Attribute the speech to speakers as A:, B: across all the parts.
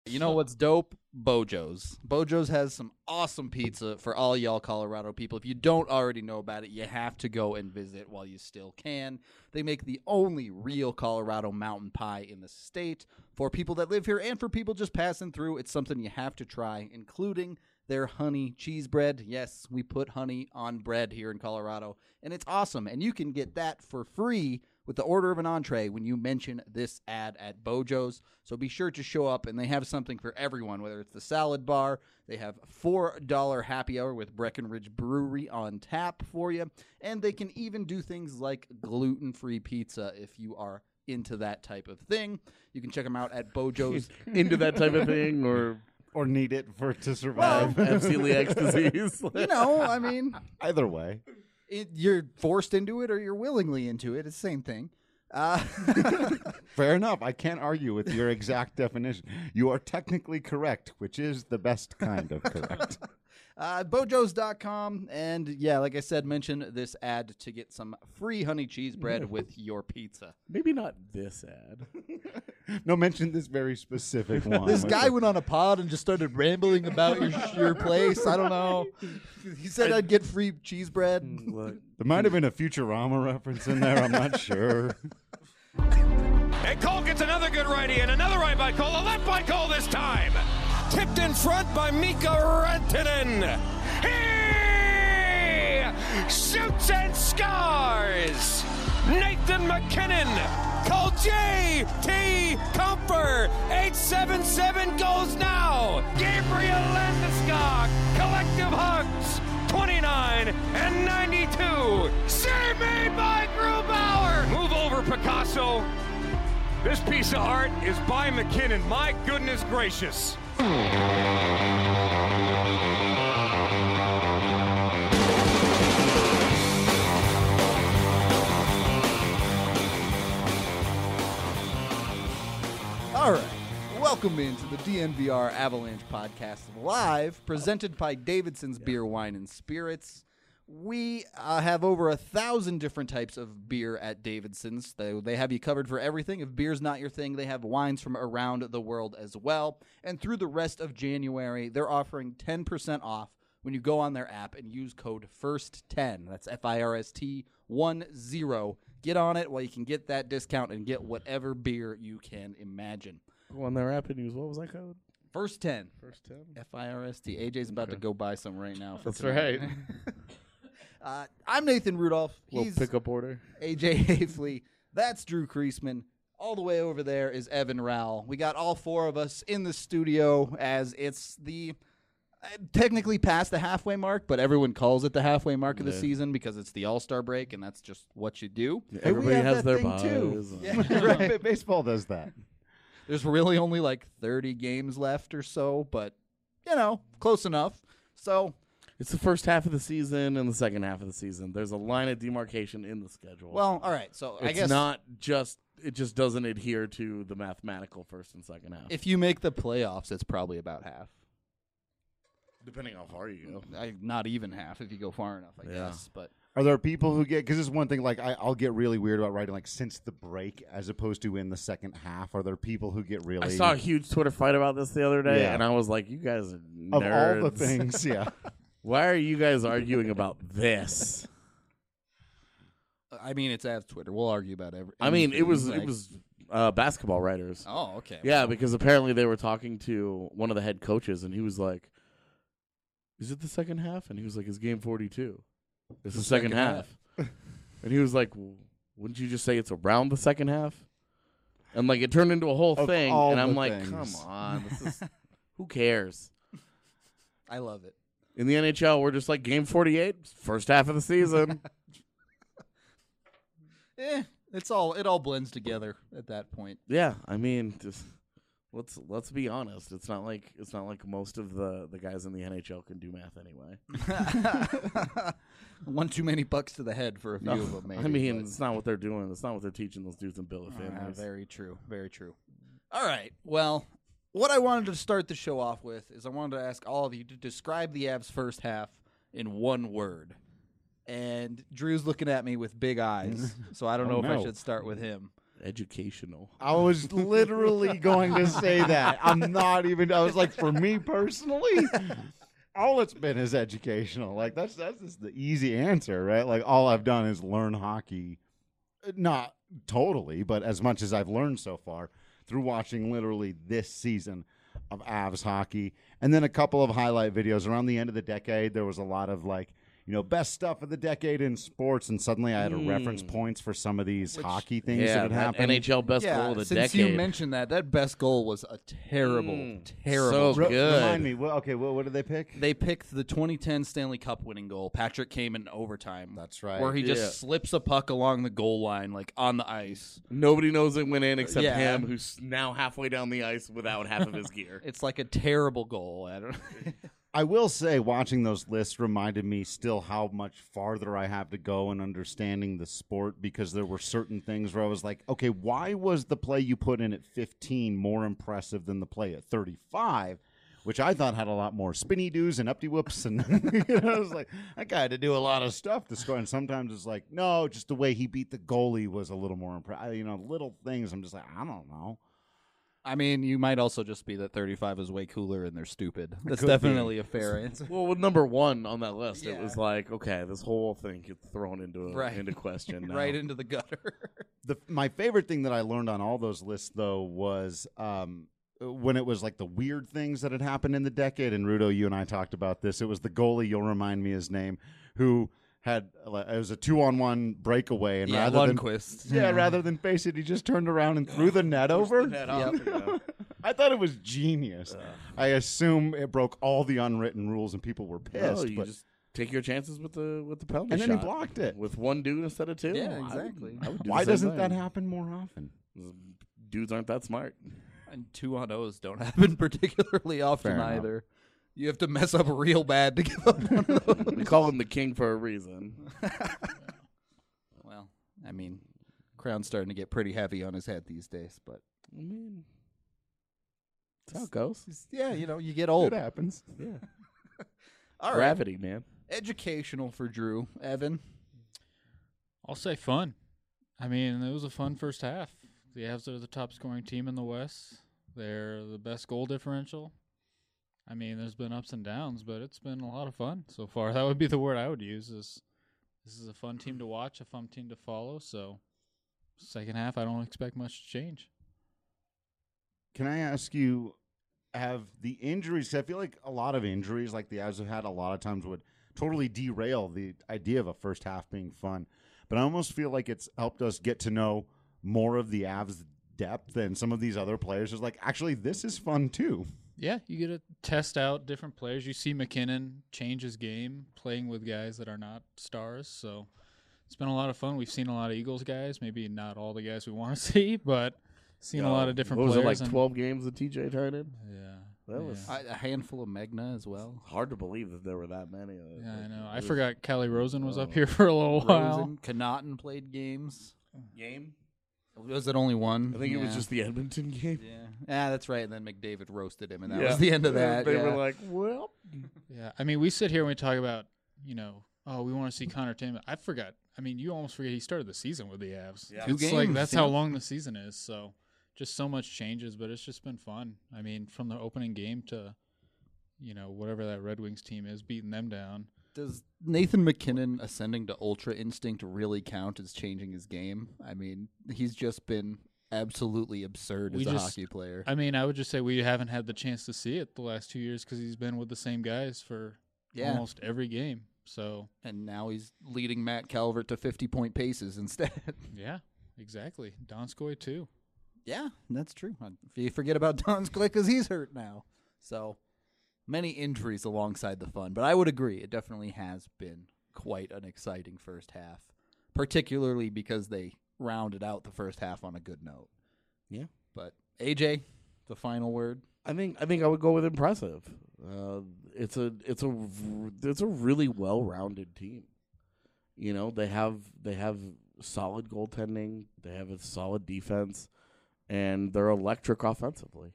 A: You know what's dope? Bojo's. Bojo's has some awesome pizza for all y'all Colorado people. If you don't already know about it, you have to go and visit while you still can. They make the only real Colorado mountain pie in the state. For people that live here and for people just passing through, it's something you have to try, including their honey cheese bread. Yes, we put honey on bread here in Colorado, and it's awesome. And you can get that for free with the order of an entree when you mention this ad at Bojo's. So be sure to show up, and they have something for everyone, whether it's the salad bar. They have $4 happy hour with Breckenridge Brewery on tap for you, and they can even do things like gluten-free pizza if you are into that type of thing. You can check them out at Bojo's.
B: Into that type of thing,
C: or need it to survive.
B: celiac disease.
A: You know, I mean,
C: Either way.
A: you're forced into it or you're willingly into it. It's the same thing.
C: Fair enough. I can't argue with your exact definition. You are technically correct, which is the best kind of correct.
A: Bojos.com. And yeah, like I said, mention this ad to get some free honey cheese bread with your pizza.
B: Maybe not this ad.
C: No, mention this very specific one.
A: This guy went on a pod and just started rambling about your place. I don't know. He said I'd get free cheese bread.
B: Look,
C: There might have been a Futurama reference in there. I'm not sure.
D: And Cole gets another good righty and another right by Cole. A left by Cole this time. Tipped in front by Mika Rantanen. He shoots and scores. Nathan McKinnon. Cole J.T. Comfer. 877 goes now. Gabriel Landeskog. Collective hugs. 29 and 92. Save made by Grubauer. Move over, Picasso. This piece of art is by McKinnon. My goodness gracious.
A: All right. Welcome into the DNVR Avalanche Podcast Live, presented by Davidson's Beer, Wine, and Spirits. We have over 1,000 different types of beer at Davidson's. They have you covered for everything. If beer's not your thing, they have wines from around the world as well. And through the rest of January, they're offering 10% off when you go on their app and use code FIRST10. That's FIRST10. Get on it while you can get that discount and get whatever beer you can imagine.
B: go on their app and use, what was that code?
A: First 10.
B: First 10?
A: FIRST. AJ's about to go buy some right now.
B: That's right.
A: I'm Nathan Rudolph.
B: Little
A: He's
B: pickup order.
A: AJ Hafley. That's Drew Kreisman. All the way over there is Evan Rowell. We got all four of us in the studio as it's the technically past the halfway mark, but everyone calls it the halfway mark of the season because it's the All-Star break, and that's just what you do.
B: Yeah,
C: Hey,
B: everybody
C: we have
B: has
C: that
B: their
C: thing,
B: buys.
C: too.
A: Yeah, right.
C: Baseball does that.
A: There's really only like 30 games left or so, but, you know, close enough. So
B: It's the first half of the season and the second half of the season. There's a line of demarcation in the schedule.
A: well, all right. So I
B: it's
A: guess
B: not just it just doesn't adhere to the mathematical first and second half.
A: if you make the playoffs, it's probably about half.
B: Depending how far you go.
A: Not even half if you go far enough, I
B: Yeah.
A: guess. But
C: Are there people who get, because this is one thing, like I'll get really weird about writing like since the break as opposed to in the second half. Are there people who get really
B: I saw a huge Twitter fight about this the other day,
C: Yeah.
B: and I was like, you guys are
C: of
B: nerds.
C: all the things? Yeah.
B: Why are you guys arguing about this?
A: I mean, it's Avs Twitter. We'll argue about everything.
B: I mean, it was basketball writers.
A: Oh, okay.
B: Yeah, because apparently they were talking to one of the head coaches, and he was like, "Is it the second half?" And he was like, "It's game 42. It's the second half." And he was like, "Wouldn't you just say it's around the second half?" And like it turned into a whole
C: Of
B: thing,
C: all
B: and I'm
C: the
B: like,
C: things.
B: "Come on, this is who cares?"
A: I love it.
B: In the NHL, we're just like game 48, first half of the season.
A: It all blends together at that point.
B: Yeah, I mean, just let's be honest. It's not like most of the guys in the NHL can do math anyway.
A: One too many bucks to the head for a few of them, maybe.
B: I mean,
A: but-
B: it's not what they're doing. It's not what they're teaching those dudes in billet families.
A: very true. Very true. All right. Well, what I wanted to start the show off with is I wanted to ask all of you to describe the Avs' first half in one word. And Drew's looking at me with big eyes, so I don't know if I
C: no.
A: should start with him.
B: Educational.
C: I was literally going to say that. I was like, for me personally, all it's been is educational. Like that's just the easy answer, right? Like all I've done is learn hockey. Not totally, but as much as I've learned so far through watching literally this season of Avs hockey. And then a couple of highlight videos around the end of the decade. There was a lot of best stuff of the decade in sports, and suddenly I had to reference points for some of these hockey things that had happened.
B: NHL best goal of the
A: since
B: decade.
A: you mentioned that best goal was a terrible
B: So good.
C: Remind me, what did they pick?
A: They picked the 2010 Stanley Cup winning goal. Patrick came in overtime.
C: That's right.
A: Where he just slips a puck along the goal line, on the ice.
B: Nobody knows it went in except
A: Yeah.
B: him, who's now halfway down the ice without half of his gear.
A: It's like a terrible goal. I don't know.
C: I will say, watching those lists reminded me still how much farther I have to go in understanding the sport, because there were certain things where I was like, okay, why was the play you put in at 15 more impressive than the play at 35, which I thought had a lot more spinny doos and uppity whoops. And I was like, that guy had to do a lot of stuff to score. And sometimes it's like, no, just the way he beat the goalie was a little more impressive. Little things. I'm just like, I don't know.
A: I mean, you might also just be that 35 is way cooler and they're stupid. That's
C: could
A: definitely a fair answer.
B: Well, with number one on that list, it
A: Yeah.
B: was like, okay, this whole thing gets thrown into question now.
A: Right into the gutter.
C: My favorite thing that I learned on all those lists, though, was when it was like the weird things that had happened in the decade. And Rudo, you and I talked about this. It was the goalie, you'll remind me his name, who had it was a 2-on-1 breakaway, and
A: Lundqvist.
C: rather than face it, he just turned around and threw the net over.
B: Yep.
C: I thought it was genius. I assume it broke all the unwritten rules, and people were pissed.
B: No, you
C: but
B: just take your chances with the penalty
C: and
B: shot.
C: then he blocked it.
B: with one dude instead of two.
A: Yeah, exactly.
B: I would do
C: Why
B: the same
C: doesn't that
B: thing.
C: happen more often?
B: Dudes aren't that smart.
A: And 2-on-0s don't happen particularly often
C: Fair enough.
A: either. You have to mess up real bad to give up one of those.
B: We call him the king for a reason.
A: Well, I mean, crown's starting to get pretty heavy on his head these days, but
B: I mean, that's how it goes.
A: yeah, you get old.
C: It happens.
B: Yeah.
A: All right.
B: Gravity, man.
A: Educational for Drew. Evan?
E: I'll say fun. I mean, it was a fun first half. The Avs are the top scoring team in the West. They're the best goal differential. I mean, there's been ups and downs, but it's been a lot of fun so far. That would be the word I would use. This is a fun team to watch, a fun team to follow. So, second half, I don't expect much to change.
C: Can I ask you, have the injuries, 'cause I feel like a lot of injuries like the Avs have had a lot of times would totally derail the idea of a first half being fun. But I almost feel like it's helped us get to know more of the Avs depth than some of these other players. It's like, actually, this is fun too.
E: Yeah, you get to test out different players. You see McKinnon change his game, playing with guys that are not stars. So it's been a lot of fun. We've seen a lot of Eagles guys. Maybe not all the guys we want to see, but seen a lot of different
B: What was
E: players.
B: it, like 12 games of TJ Tynan?
E: Yeah.
B: That was
A: A handful of Megna as well.
B: hard to believe that there were that many.
E: Yeah, I know.
B: It
E: I
B: was-
E: forgot Callie Rosen was up here for a little while.
A: Rosen, Connaughton played games.
B: Game?
A: Was it only one?
B: I think it was
A: Yeah.
B: just the Edmonton game.
A: Yeah, that's right. And then McDavid roasted him, and that
B: Yeah.
A: was the end of that.
B: They
A: yeah.
B: were like, well.
E: Yeah, I mean, we sit here and we talk about, oh, we want to see Connor Timmins. I forgot. I mean, you almost forget he started the season with the Avs.
B: Yeah.
A: 2
E: It's like
A: games,
E: that's
A: yeah.
E: how long the season is. So just so much changes, but it's just been fun. I mean, from the opening game to, whatever that Red Wings team is, beating them down.
A: Does Nathan McKinnon ascending to Ultra Instinct really count as changing his game? I mean, he's just been absolutely absurd
E: We
A: as a
E: just-
A: hockey player.
E: I mean, I would just say we haven't had the chance to see it the last 2 years because he's been with the same guys for
A: Yeah.
E: almost every game. So,
A: And now he's leading Matt Calvert to 50-point paces instead.
E: yeah, exactly. Donskoy, too.
A: Yeah, that's true. You forget about Donskoy because he's hurt now. So many injuries alongside the fun. But I would agree, it definitely has been quite an exciting first half, particularly because they rounded out the first half on a good note.
B: Yeah.
A: But AJ, the final word.
B: I think I would go with impressive. It's a really well-rounded team. They have solid goaltending, they have a solid defense, and they're electric offensively.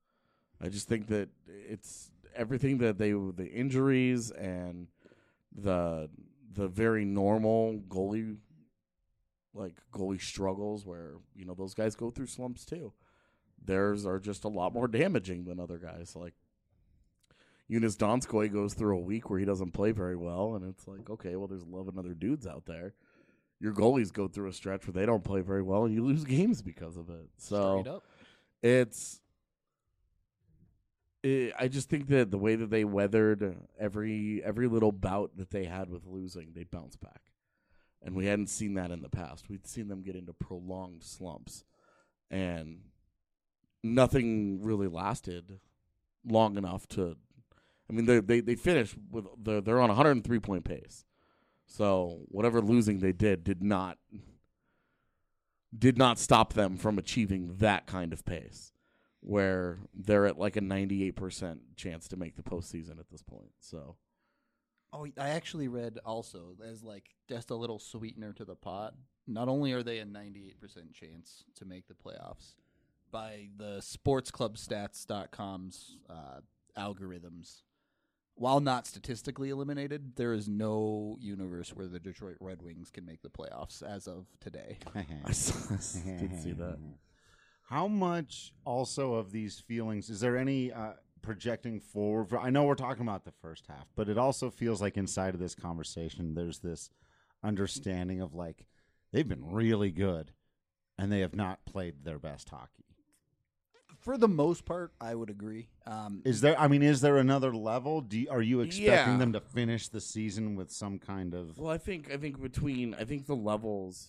B: I just think that it's everything that the injuries and the very normal goalie like goalie struggles where, those guys go through slumps too. Theirs are just a lot more damaging than other guys. Like Jonas Donskoy goes through a week where he doesn't play very well, and it's like, okay, well, there's 11 other dudes out there. Your goalies go through a stretch where they don't play very well, and you lose games because of it. So I just think that the way that they weathered every little bout that they had with losing, they bounced back. And we hadn't seen that in the past. We'd seen them get into prolonged slumps, and nothing really lasted long enough to. I mean, they finished with they're on a 103-point pace. So whatever losing they did not stop them from achieving that kind of pace, where they're at like a 98% chance to make the postseason at this point. So.
A: Oh, I actually read also as like just a little sweetener to the pot. Not only are they a 98% chance to make the playoffs, by the sportsclubstats.com's algorithms, while not statistically eliminated, there is no universe where the Detroit Red Wings can make the playoffs as of today.
B: I did see that.
C: How much also of these feelings, is there any projecting forward? I know we're talking about the first half, but it also feels like inside of this conversation, there's this understanding of like, they've been really good and they have not played their best hockey.
A: For the most part, I would agree.
C: Is there another level? Are you expecting them to finish the season with some kind of?
B: Well, I think the levels,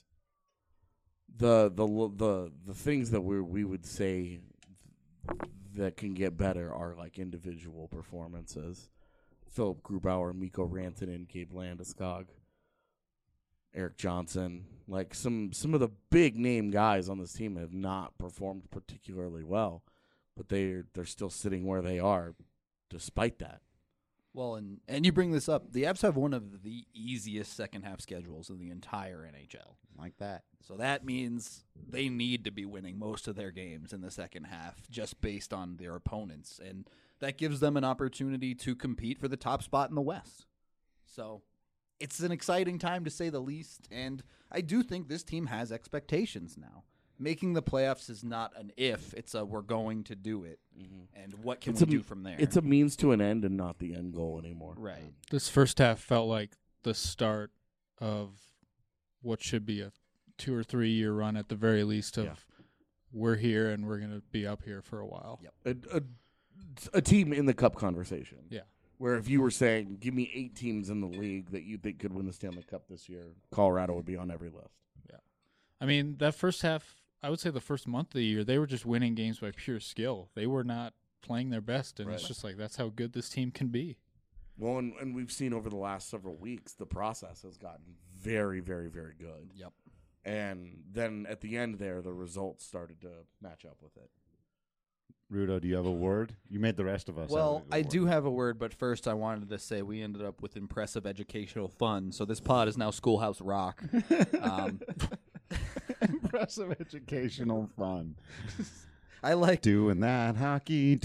B: the things that we would say that can get better are like individual performances. Philip Grubauer, Mikko Rantanen, Gabe Landeskog, Eric Johnson, like some of the big name guys on this team have not performed particularly well, but they're still sitting where they are despite that.
A: Well, and you bring this up, the Avs have one of the easiest second half schedules in the entire NHL.
C: Like that.
A: So that means they need to be winning most of their games in the second half just based on their opponents, and that gives them an opportunity to compete for the top spot in the West. So it's an exciting time to say the least, and I do think this team has expectations now. Making the playoffs is not an if, it's a we're going to do it. Mm-hmm. And what can we do from there?
B: It's a means to an end and not the end goal anymore.
A: Right.
E: This first half felt like the start of what should be a 2 or 3 year run at the very least of we're here and we're going to be up here for a while.
B: Yep. A team in the Cup conversation.
E: Yeah.
B: Where if you were saying, give me 8 teams in the league that you think could win the Stanley Cup this year, Colorado would be on every list.
E: Yeah. I mean, that first half, I would say the first month of the year, they were just winning games by pure skill. They were not playing their best, and it's just like that's how good this team can be.
B: Well, and we've seen over the last several weeks, the process has gotten very, very, very good.
A: Yep.
B: And then at the end there, the results started to match up with it.
C: Rudo, do you have a word? You made the rest of us.
A: Well, I do have a word, but first I wanted to say we ended up with impressive educational fun. So this pod is now Schoolhouse Rock.
C: Impressive educational fun.
A: I like
C: doing that hockey.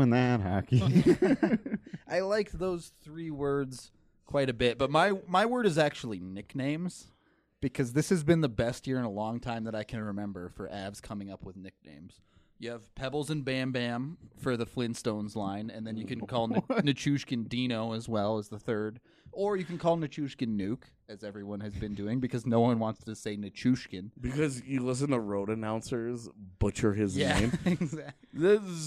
A: I liked those 3 words quite a bit, but my word is actually nicknames, because this has been the best year in a long time that I can remember for Avs coming up with nicknames. You have Pebbles and Bam Bam for the Flintstones line, and then you can call Nichushkin Dino as well as the third. Or you can call Nichushkin Nuke, as everyone has been doing, because no one wants to say Nichushkin.
B: Because you listen to road announcers butcher his name.
A: Exactly.
B: This is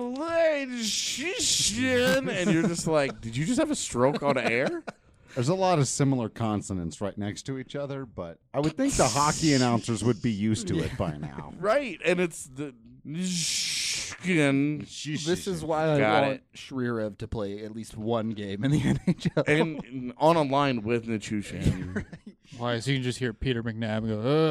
B: Nichushkin, and you're just like, did you just have a stroke on air?
C: There's a lot of similar consonants right next to each other, but I would think the hockey announcers would be used to it by now.
B: Right, and it's the Nichushkin.
A: This is why I want Shrirev to play at least one game in the NHL.
B: And on a line with Nichushkin.
A: Right.
E: Why? So you can just hear Peter McNabb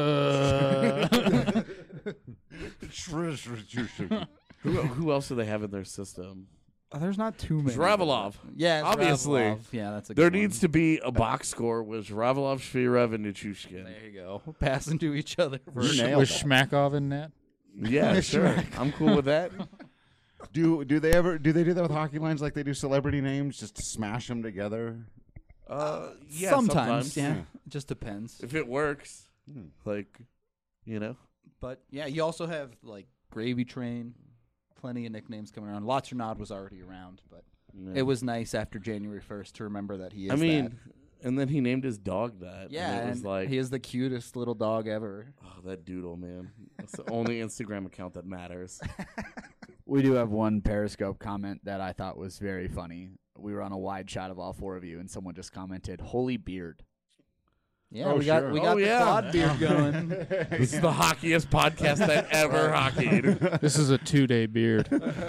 E: go,
B: Who else do they have in their system?
A: There's not too many.
B: Zhravalov.
A: Yeah,
B: obviously.
A: Zhravalov. Yeah, that's a
B: there
A: good one.
B: needs to be a box score with Zhravalov, Shvirev, and Nichushkin.
A: There you go. Passing to each other.
E: with Shmakov in net?
B: Yeah, sure. I'm cool with that.
C: Do they do that with hockey lines like they do celebrity names, just to smash them together?
B: Yeah,
A: sometimes. Yeah. It just depends.
B: If it works. Like, you know.
A: But yeah, you also have like Gravy Train, plenty of nicknames coming around. Lotsernod was already around, but it was nice after January 1st to remember that he is.
B: I mean, and then he named his dog that.
A: yeah,
B: and it was like
A: he is the cutest little dog ever.
B: oh, that doodle, man. That's the only Instagram account that matters.
F: We do have one Periscope comment that I thought was very funny. We were on a wide shot of all four of you, and someone just commented, "Holy beard."
A: Yeah,
C: Oh,
A: we got
C: sure.
A: we
B: Oh,
A: got the
B: yeah.
A: quad beard going.
B: This is the hockiest podcast that ever hockeyed.
E: This is a 2-day beard.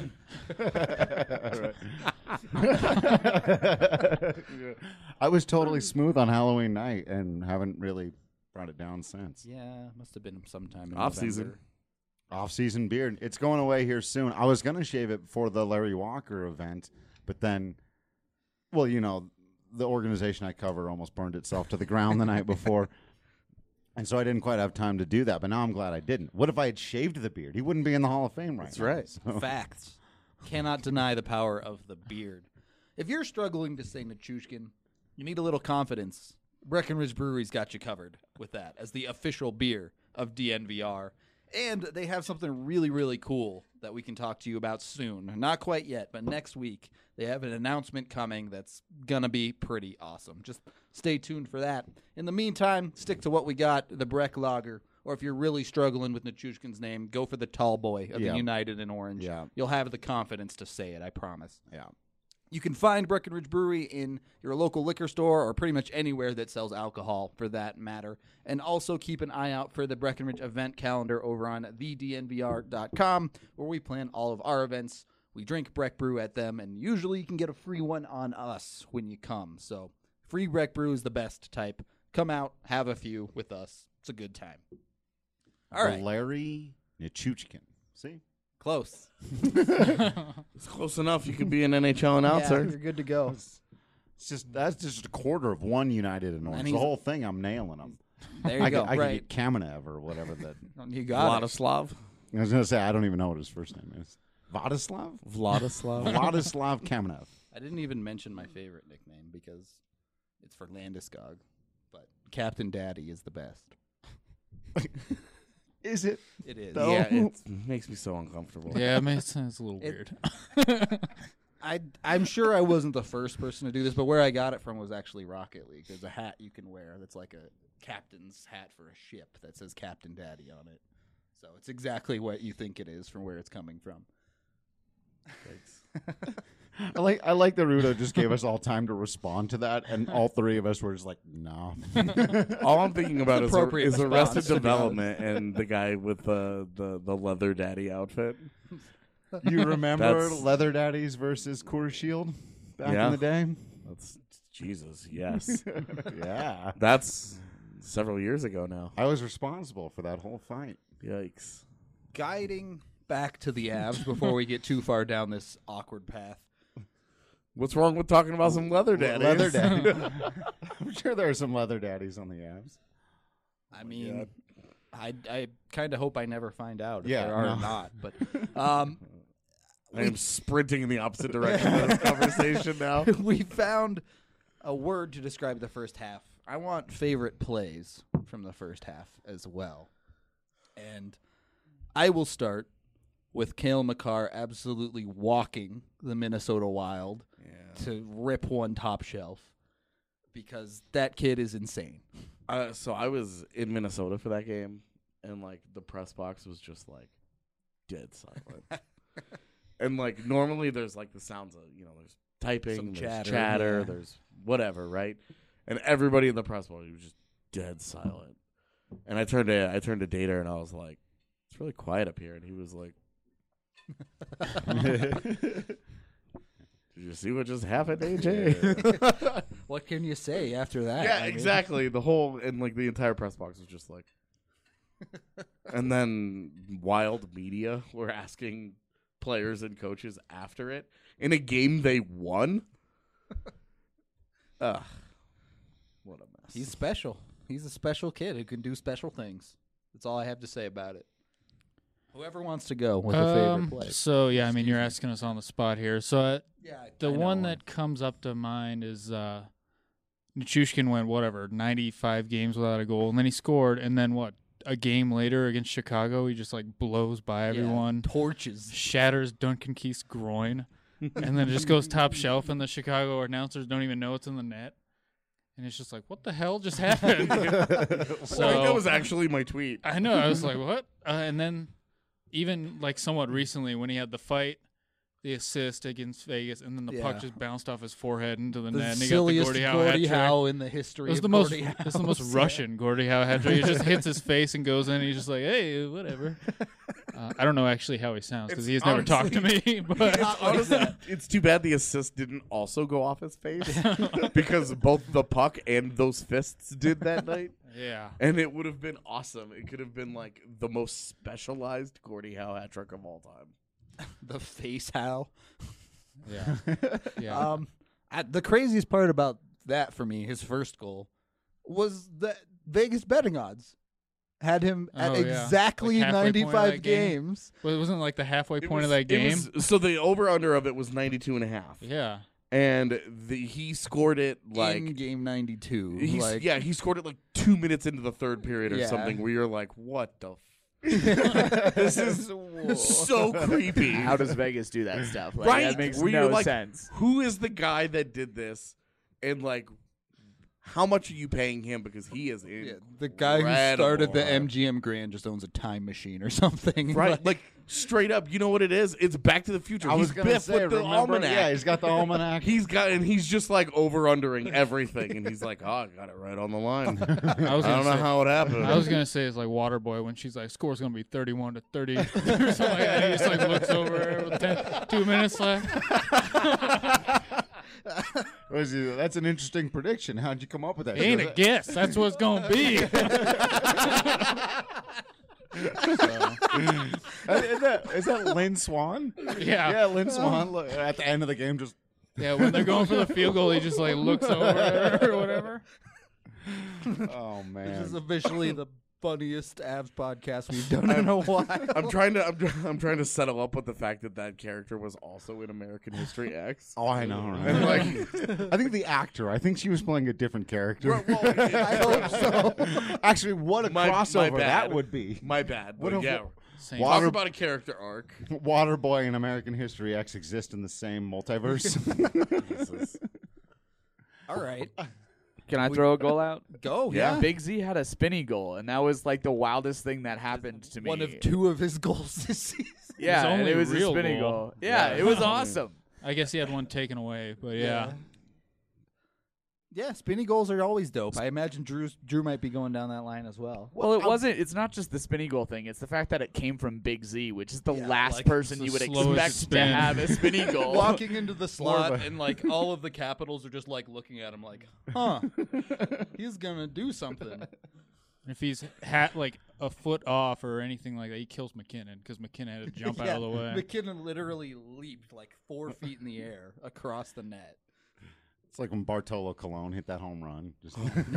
C: I was totally smooth on Halloween night and haven't really brought it down since.
A: Yeah, must have been sometime in
B: Off-season.
A: November.
C: Off-season beard. It's going away here soon. I was going to shave it for the Larry Walker event, but then, well, you know, the organization I cover almost burned itself to the ground the night before. And so I didn't quite have time to do that, but now I'm glad I didn't. What if I had shaved the beard? He wouldn't be in the Hall of Fame right
B: That's
C: now.
B: right.
C: So-
A: Facts. Cannot deny the power of the beard. If you're struggling to say Nichushkin, you need a little confidence. Breckenridge Brewery's got you covered with that as the official beer of DNVR. And they have something really, really cool that we can talk to you about soon. Not quite yet, but next week they have an announcement coming that's going to be pretty awesome. Just stay tuned for that. In the meantime, stick to what we got, the Breck Lager. Or if you're really struggling with Nichushkin's name, go for the Tall Boy of
C: Yeah.
A: the United in Orange.
C: Yeah.
A: You'll have the confidence to say it, I promise.
C: Yeah.
A: You can find Breckenridge Brewery in your local liquor store or pretty much anywhere that sells alcohol for that matter. And also keep an eye out for the Breckenridge event calendar over on thednvr.com where we plan all of our events. We drink Breck Brew at them, and usually you can get a free one on us when you come. So free Breck Brew is the best type. Come out, have a few with us. It's a good time. All right.
C: Larry Nichushkin. See?
A: Close.
B: It's close enough. You could be an NHL announcer.
A: Yeah, you're good to go.
C: That's just a quarter of one United in Orange. The
A: he's-
C: whole thing, I'm nailing them.
A: There you
C: I
A: go.
C: could
A: Right.
C: get Kamenev or whatever that.
A: You got it.
B: Vladislav.
C: I was going to say, I don't even know what his first name is. Vladislav?
B: Vladislav.
C: Vladislav Kamenev.
A: I didn't even mention my favorite nickname because it's for Landeskog, but Captain Daddy is the best.
C: Is it?
A: It is.
C: Though?
B: Yeah, it makes me so uncomfortable.
E: Yeah, it makes sense. A little
A: It-
E: weird.
A: I'm sure I wasn't the first person to do this, but where I got it from was actually Rocket League. There's a hat you can wear that's like a captain's hat for a ship that says Captain Daddy on it. So it's exactly what you think it is from where it's coming from.
C: I like that Rudo just gave us all time to respond to that, and all three of us were just like, no.
B: All I'm thinking about is,
A: Appropriate
B: is
A: response,
B: Arrested
A: to be
B: Development and the guy with the leather daddy outfit.
C: You remember
B: That's-
C: Leather Daddies versus Coors Shield back
B: Yeah.
C: in the day?
B: That's Jesus. Yes,
C: Yeah.
B: that's several years ago now.
C: I was responsible for that whole fight.
B: Yikes.
A: Guiding back to the Avs before we get too far down this awkward path.
B: What's wrong with talking about some leather daddies?
C: Leather Daddy. I'm sure there are some Leather Daddies on the Avs.
A: I mean, I kind of hope I never find out if
C: Yeah,
A: there are
C: no.
A: or not. But
B: I am sprinting in the opposite direction of this conversation now.
A: we found a word to describe the first half. I want favorite plays from the first half as well. And I will start with Cale Makar absolutely walking the Minnesota Wild to rip one top shelf because that kid is insane.
B: So I was in Minnesota for that game, and like the press box was just like dead silent. And like normally there's like the sounds of there's typing,
A: Some
B: there's
A: chatter,
B: chatter,
A: yeah.
B: there's whatever, right? And everybody in the press box was just dead silent. And I turned to Data and I was like, "It's really quiet up here." And he was like, "Did you see what just happened, AJ?"
A: What can you say after that?
B: Yeah,
A: I mean,
B: exactly. The whole and like the entire press box was just like, and then Wild media were asking players and coaches after it in a game they won. Ugh, what a mess.
A: He's special. He's a special kid who can do special things. That's all I have to say about it. Whoever wants to go with a favorite play.
E: So yeah, I mean, you're asking us on the spot here. So
A: Yeah,
E: the one that comes up to mind is Nichushkin went, 95 games without a goal, and then he scored, and then a game later against Chicago, he just, blows by everyone,
A: torches.
E: shatters Duncan Keith's groin, and then it just goes top shelf, and the Chicago announcers don't even know it's in the net. And it's just like, what the hell just happened?
B: So I think that was actually my tweet.
E: I know. I was like, what? And then even somewhat recently when he had the fight, the assist against Vegas, and then the puck just bounced off his forehead into the net. And he got the
A: silliest Gordie Howe in the history of Gordie Howe.
E: It's the most Russian Gordie Howe hat trick. He just hits his face and goes in, and he's just like, hey, whatever. I don't know actually how he sounds because he's never talked to me. But
B: honestly, it's too bad the assist didn't also go off his face because both the puck and those fists did that night.
E: Yeah.
B: And it would have been awesome. It could have been the most specialized Gordie Howe hat trick of all time.
A: The face Howe.
E: Yeah. Yeah.
A: The craziest part about that for me, his first goal, was the Vegas betting odds had him at exactly
E: halfway point of
A: 95
E: that game.
A: games.
E: Well, it wasn't the halfway point of that game.
B: So the over-under of it was 92.5.
E: Yeah.
B: And he scored it
A: in game 92.
B: He scored it 2 minutes into the third period or something where you're like, what the this is so creepy.
F: How does Vegas do that stuff?
B: Right?
F: That makes
B: Where
F: no
B: you're
F: sense.
B: Who is the guy that did this? And how much are you paying him? Because he is
A: the guy who started the MGM Grand just owns a time machine or something.
B: Right? Straight up, you know what it is? It's Back to the Future.
C: I was
B: He's
C: going to
B: Biff
C: say,
B: with the
C: remember?
B: almanac.
C: Yeah, he's got the almanac.
B: He's just over-undering everything. And he's like, I got it right on the line. I
E: don't
B: know how it happened.
E: I was going to say it's like Waterboy when she's like, score's going to be 31-30 or something like that. He just looks over with 2 minutes left.
C: That's an interesting prediction. How'd you come up with that?
E: Ain't a guess. That's what it's going to be.
C: Is that Lynn Swan?
E: Yeah.
C: Yeah, Lynn Swan. Look, at the end of the game, just
E: yeah, when they're going for the field goal, he just looks over or whatever.
C: oh man,
A: This is officially the funniest Avs podcast we've done in a while.
B: I'm trying to settle up with the fact that character was also in American History X.
C: Oh, I know, right?
B: And
C: I think the actor. I think she was playing a different character.
B: Well,
C: I hope so. Actually, what a crossover that would be.
B: My bad.
C: What
B: But
C: if-
E: Same.
C: Water-
B: Talk about a character arc.
C: Waterboy and American History X exist in the same multiverse.
B: Jesus.
A: All right.
F: Can I throw a goal out?
A: Go.
B: Yeah.
F: Big Z had a spinny goal, and that was the wildest thing that happened to me.
A: One of two of his goals this season.
F: Yeah, and
E: only
F: it was a
E: real
F: spinny
E: goal.
F: goal. Yeah, it was awesome.
E: I guess he had one taken away, but yeah.
A: Yeah, spinny goals are always dope. I imagine Drew might be going down that line as well.
F: Well, it wasn't. It's not just the spinny goal thing. It's the fact that it came from Big Z, which is the
A: Yeah,
F: last person
E: it's
F: you
E: the
F: would
E: slowest
F: expect to
E: spin.
F: have a spinny goal.
A: Walking into the slot
C: of a-
A: and all of the Capitals are just looking at him huh, he's gonna do something.
E: If he's a foot off or anything like that, he kills McKinnon because McKinnon had to jump out of the way.
A: McKinnon literally leaped 4 feet in the air across the net.
C: It's like when Bartolo Colon hit that home run. Just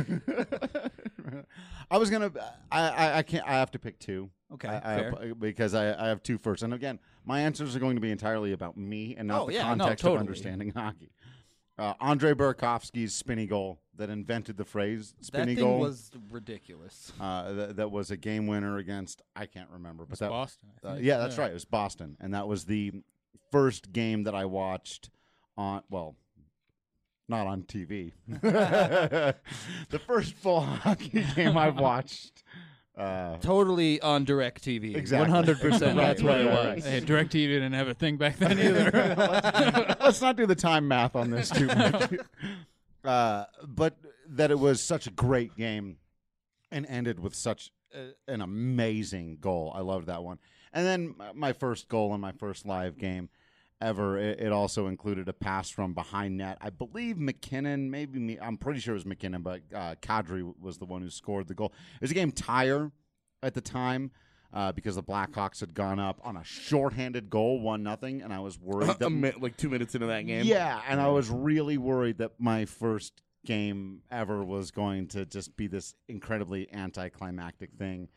C: I was gonna. I can't. I have to pick two.
A: Okay,
C: fair. Because I have two first, and again, my answers are going to be entirely about me and not the context
A: totally.
C: of understanding hockey. Andre Burakovsky's spinny goal that invented the phrase spinny
A: That thing
C: goal
A: was ridiculous.
C: that was a game winner against I can't remember, but
E: It's
C: that
E: Boston. I think.
C: yeah, that's right. It was Boston, and that was the first game that I watched on. Well, not on TV. The first full hockey game I've watched.
A: Totally on DirecTV.
C: Exactly.
A: 100%. That's what it
C: right,
A: was.
E: Hey, DirecTV didn't have a thing back then either.
C: Let's not do the time math on this too much. But that it was such a great game and ended with such an amazing goal. I loved that one. And then my first goal in my first live game ever, it also included a pass from behind net. I believe McKinnon, maybe me, I'm pretty sure it was McKinnon, but Kadri was the one who scored the goal. It was a game tire at the time because the Blackhawks had gone up on a shorthanded goal, 1-0, and I was worried that
B: 2 minutes into that game.
C: Yeah, and I was really worried that my first game ever was going to just be this incredibly anticlimactic thing.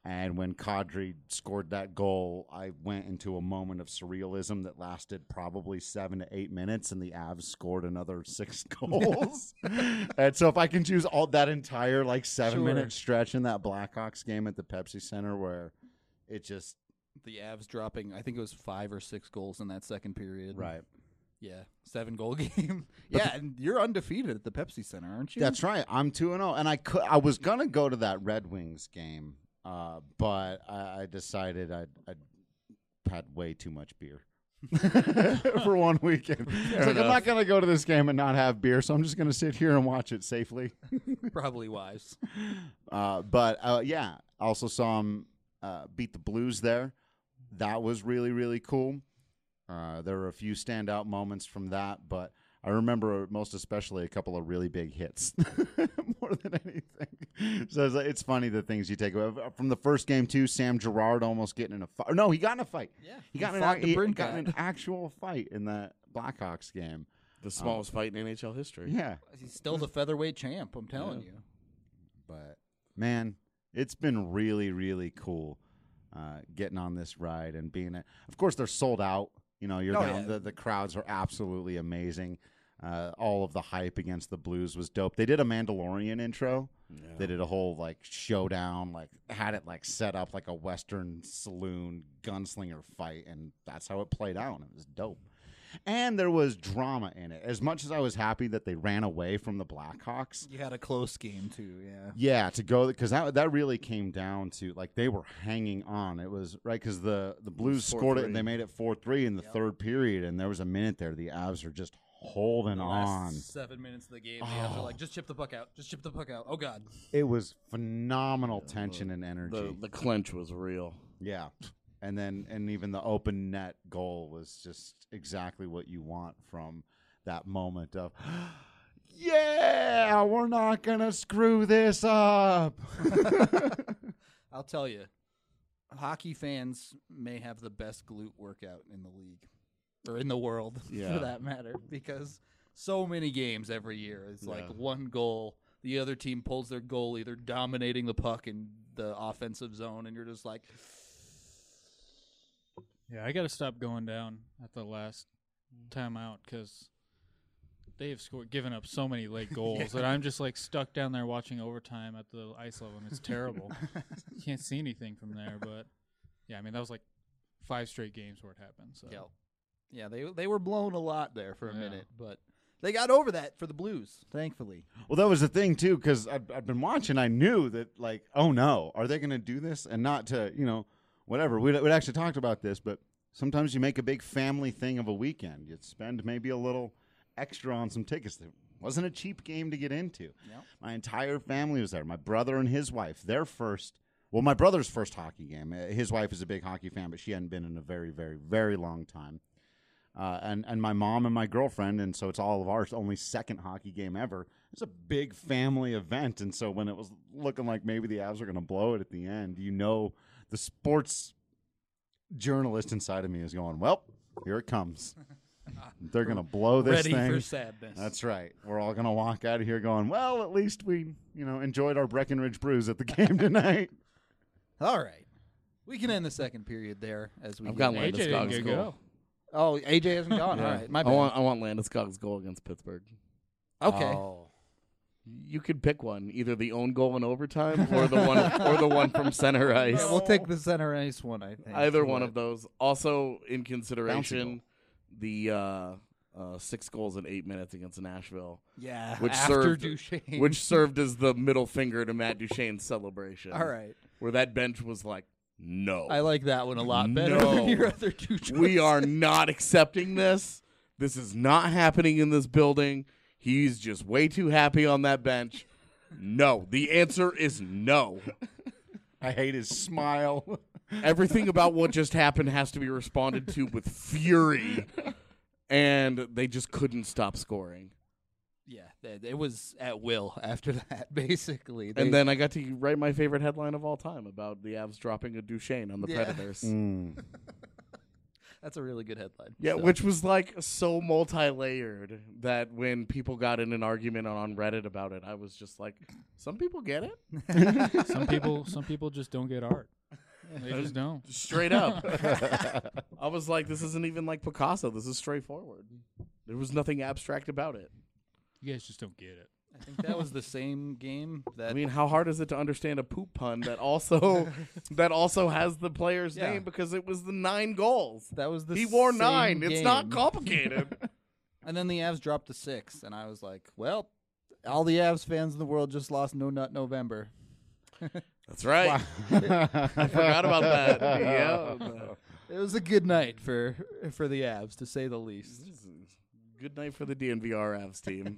C: And when Kadri scored that goal, I went into a moment of surrealism that lasted probably 7 to 8 minutes, and the Avs scored another 6 goals. And so if I can choose all that entire 7-minute stretch in that Blackhawks game at the Pepsi Center where it just
A: The Avs dropping, I think it was 5 or 6 goals in that second period.
C: right.
A: Yeah, 7-goal game. Yeah, and you're undefeated at the Pepsi Center, aren't you?
C: That's right. I'm 2-0, and I was gonna go to that Red Wings game, but I decided I'd had way too much beer for one weekend. It's like I'm not gonna go to this game and not have beer, so I'm just gonna sit here and watch it safely.
A: Probably wise.
C: But yeah, also saw him beat the Blues there. That was really, really cool. There were a few standout moments from that, but I remember most especially a couple of really big hits more than anything. So it's funny the things you take away. From the first game, too, Sam Girard almost getting in a fight. No, he got in a fight.
A: Yeah,
C: he got in an actual fight in that Blackhawks game.
B: The smallest fight in NHL history.
C: Yeah.
A: He's still the featherweight champ, I'm telling you.
C: But, man, it's been really, really cool getting on this ride and being it. Of course, they're sold out. You know, you're down. Yeah. The crowds are absolutely amazing. All of the hype against the Blues was dope. They did a Mandalorian intro. Yeah. They did a whole showdown, had it set up like a Western saloon gunslinger fight, and that's how it played out. It was dope. And there was drama in it. As much as I was happy that they ran away from the Blackhawks,
A: you had a close game too. Yeah.
C: Yeah, to go because that really came down to they were hanging on. It was right because the Blues scored it and they made it 4-3 in the third period, and there was a minute there the Avs are just holding on.
A: 7 minutes of the game, the Avs are just chip the puck out. Just chip the puck out. Oh God.
C: It was phenomenal tension and energy.
B: The clinch was real.
C: Yeah. And even the open net goal was just exactly what you want from that moment of, yeah, we're not going to screw this up.
A: I'll tell you, hockey fans may have the best glute workout in the league or in the world for that matter, because so many games every year is one goal. The other team pulls their goalie. They're dominating the puck in the offensive zone, and you're just like,
E: yeah, I got to stop going down at the last timeout because they have given up so many late goals that I'm just stuck down there watching overtime at the ice level, and it's terrible. You can't see anything from there, but yeah, I mean that was 5 straight games where it happened. So
A: yeah, they were blown a lot there for a minute, but they got over that for the Blues, thankfully.
C: Well, that was the thing too, because I've been watching. I knew that oh no, are they going to do this? And not to whatever. We'd actually talked about this, but sometimes you make a big family thing of a weekend. You spend maybe a little extra on some tickets. It wasn't a cheap game to get into.
A: Yep.
C: My entire family was there. My brother and his wife, my brother's first hockey game. His wife is a big hockey fan, but she hadn't been in a very, very, very long time. And my mom and my girlfriend, and so it's all of ours, only second hockey game ever. It's a big family event, and so when it was looking like maybe the Avs were going to blow it at the end, the sports journalist inside of me is going, well, here it comes. They're going to blow this thing.
A: Ready for sadness.
C: That's right. We're all going to walk out of here going, well, at least we, enjoyed our Breckenridge brews at the game tonight.
A: All right. We can end the second period there as we
B: I've got
E: AJ didn't get go.
A: Oh, AJ hasn't gone.
B: Yeah.
A: All right. My bad.
B: I want Landeskog's goal against Pittsburgh.
A: Okay.
C: Oh.
B: You could pick one, either the own goal in overtime or the one from center ice.
A: Yeah, we'll take the center ice one, I think.
B: Either one of those. Also, in consideration, the 6 goals in 8 minutes against Nashville.
A: Yeah,
B: which
A: after
B: served,
A: Duchesne.
B: Which served as the middle finger to Matt Duchene's celebration.
A: All right.
B: Where that bench was like, no.
A: I like that one a lot better than your other two choices.
B: We are not accepting this. This is not happening in this building. He's just way too happy on that bench. No. The answer is no.
C: I hate his smile.
B: Everything about what just happened has to be responded to with fury. And they just couldn't stop scoring.
A: Yeah, it was at will after that, basically.
B: And then I got to write my favorite headline of all time about the Avs dropping a Duchesne on the Predators.
A: That's a really good headline.
B: Yeah,
A: So,
B: which was like so multi-layered that when people got in an argument on Reddit about it, I was just like, some people get it.
E: Some people just don't get art. They just don't.
B: Straight up. I was like, this isn't even like Picasso. This is straightforward. There was nothing abstract about it.
E: You guys just don't get it.
A: I think that was the same game that
B: I mean, how hard is it to understand a poop pun that also has the player's
A: Yeah.
B: name because it was the 9 goals.
A: that was the
B: He wore
A: same
B: 9. It's not
A: game.
B: complicated.
A: And then the Avs dropped to 6, and I was like, well, all the Avs fans in the world just lost No Nut November.
B: That's right. I forgot about that. Yeah.
A: It was a good night for the Avs, to say the least.
B: Good night for the DNVR Avs team.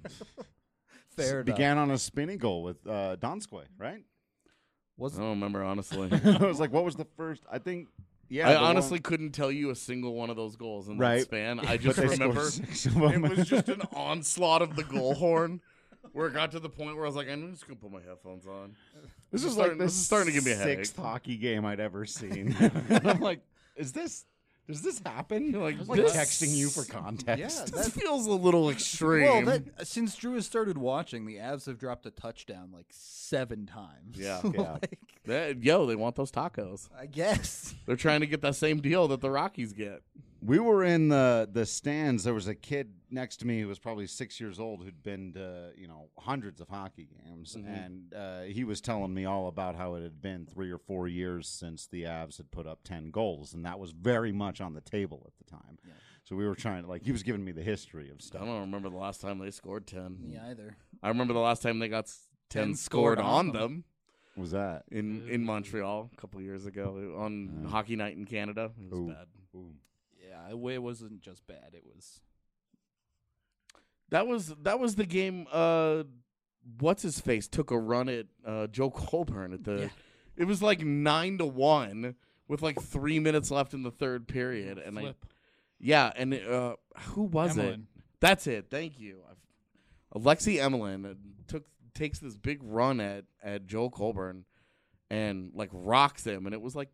A: Fair enough.
C: Began on a spinning goal with Donskoy, right?
B: I don't remember, honestly.
C: I was like, what was the first? I think, yeah.
B: I
C: the
B: honestly
C: one-
B: couldn't tell you a single one of those goals in
C: Right.
B: that span. I
C: but
B: just
C: they scored
B: remember
C: 6 of them.
B: it was just an onslaught of the goal horn where it got to the point where I was like, I'm just going to put my headphones on.
C: This is
B: starting-
C: like the
B: this is starting to give me a headache.
C: 6th hockey game I'd ever seen. And I'm like, does this happen?
B: like,
C: I'm like
B: this-
C: texting you for context.
A: Yeah,
B: This feels a little extreme.
A: Well, since Drew has started watching, the Avs have dropped a touchdown like 7 times.
B: Yeah.
C: Yeah.
B: They want those tacos.
A: I guess.
B: They're trying to get that same deal that the Rockies get.
C: We were in the stands. There was a kid next to me who was probably 6 years old who'd been to hundreds of hockey games, and he was telling me all about how it had been 3 or 4 years since the Avs had put up 10 goals, and that was very much on the table at the time. Yeah. So we were trying to he was giving me the history of
B: I
C: stuff.
B: don't remember the last time they scored 10.
A: Me either.
B: I remember the last time they got 10 scored on them.
C: What was that?
B: In Montreal a couple years ago on Hockey Night in Canada. It was
C: Ooh.
B: bad.
C: Ooh.
A: Yeah, it wasn't just bad. It was.
B: That was the game. What's his face took a run at Joe Colburn at the.
A: Yeah.
B: It was like 9-1 with like 3 minutes left in the third period, and
E: Flip.
B: and who was it?
E: Emelin.
B: That's it. Thank you. Alexei Emelin takes this big run at Joe Colburn, and like rocks him, and it was like,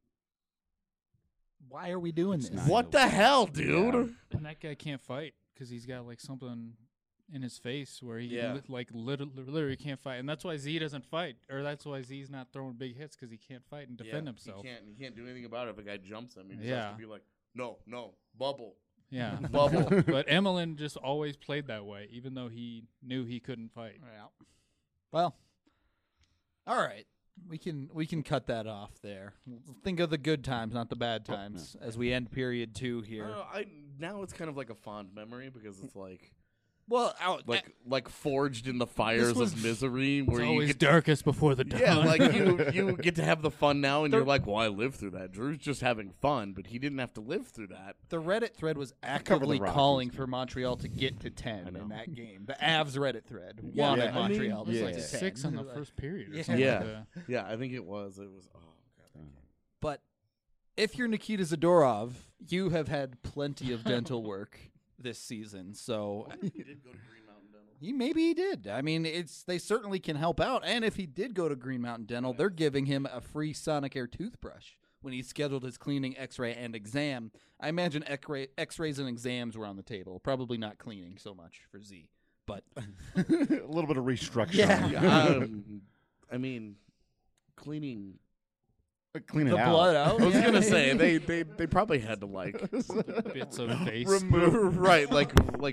A: Why are we doing this?
C: not-
B: what the hell, dude?
E: And that guy can't fight because he's got like something in his face where he
B: Yeah.
E: literally can't fight, and that's why Z doesn't fight, or that's why Z's not throwing big hits because he can't fight and defend himself.
B: He can't do anything about it if a guy jumps him. He just
E: Yeah.
B: has to be like, no, bubble.
E: Yeah,
B: Bubble.
E: but Emelin just always played that way, even though he knew he couldn't fight.
A: Yeah. Well, all right. We can cut that off there. Think of the good times, not the bad times, as we end period 2 here.
B: Now it's kind of like a fond memory because it's like
A: Well,
B: like forged in the fires
A: was-
B: of misery where
E: It's
B: you
E: always
B: get
E: darkest before the dawn.
B: yeah, like you get to have the fun now, and you're like, well, I lived through that. Drew's just having fun, but he didn't have to live through that.
A: the Reddit thread was
C: cover the
A: actively
C: Rockies,
A: calling
C: man.
A: for Montreal to get to 10
C: know.
A: in that game. The Avs Reddit thread
B: Yeah,
A: wanted
C: yeah. I mean,
A: Montreal
E: It was
A: to
E: like
A: get to 10.
E: 6 in the first period. Or
A: Yeah.
E: something
B: Yeah.
E: like that.
B: Yeah, I think it was. It was. Oh god.
A: But if you're Nikita Zadorov, you have had plenty of dental work this season. So
B: He did go to Green Mountain Dental.
A: maybe he did. I mean, they certainly can help out. And if he did go to Green Mountain Dental, they're giving him a free Sonic Air toothbrush when he scheduled his cleaning, X-ray, and exam. I imagine X-rays and exams were on the table. Probably not cleaning so much for Z, but
C: A little bit of restructuring.
A: Yeah.
B: I mean, cleaning.
C: Clean it
A: the
C: out.
A: blood out.
B: I was
A: Yeah.
B: gonna say they probably had to like
E: Bits of face.
B: remove right like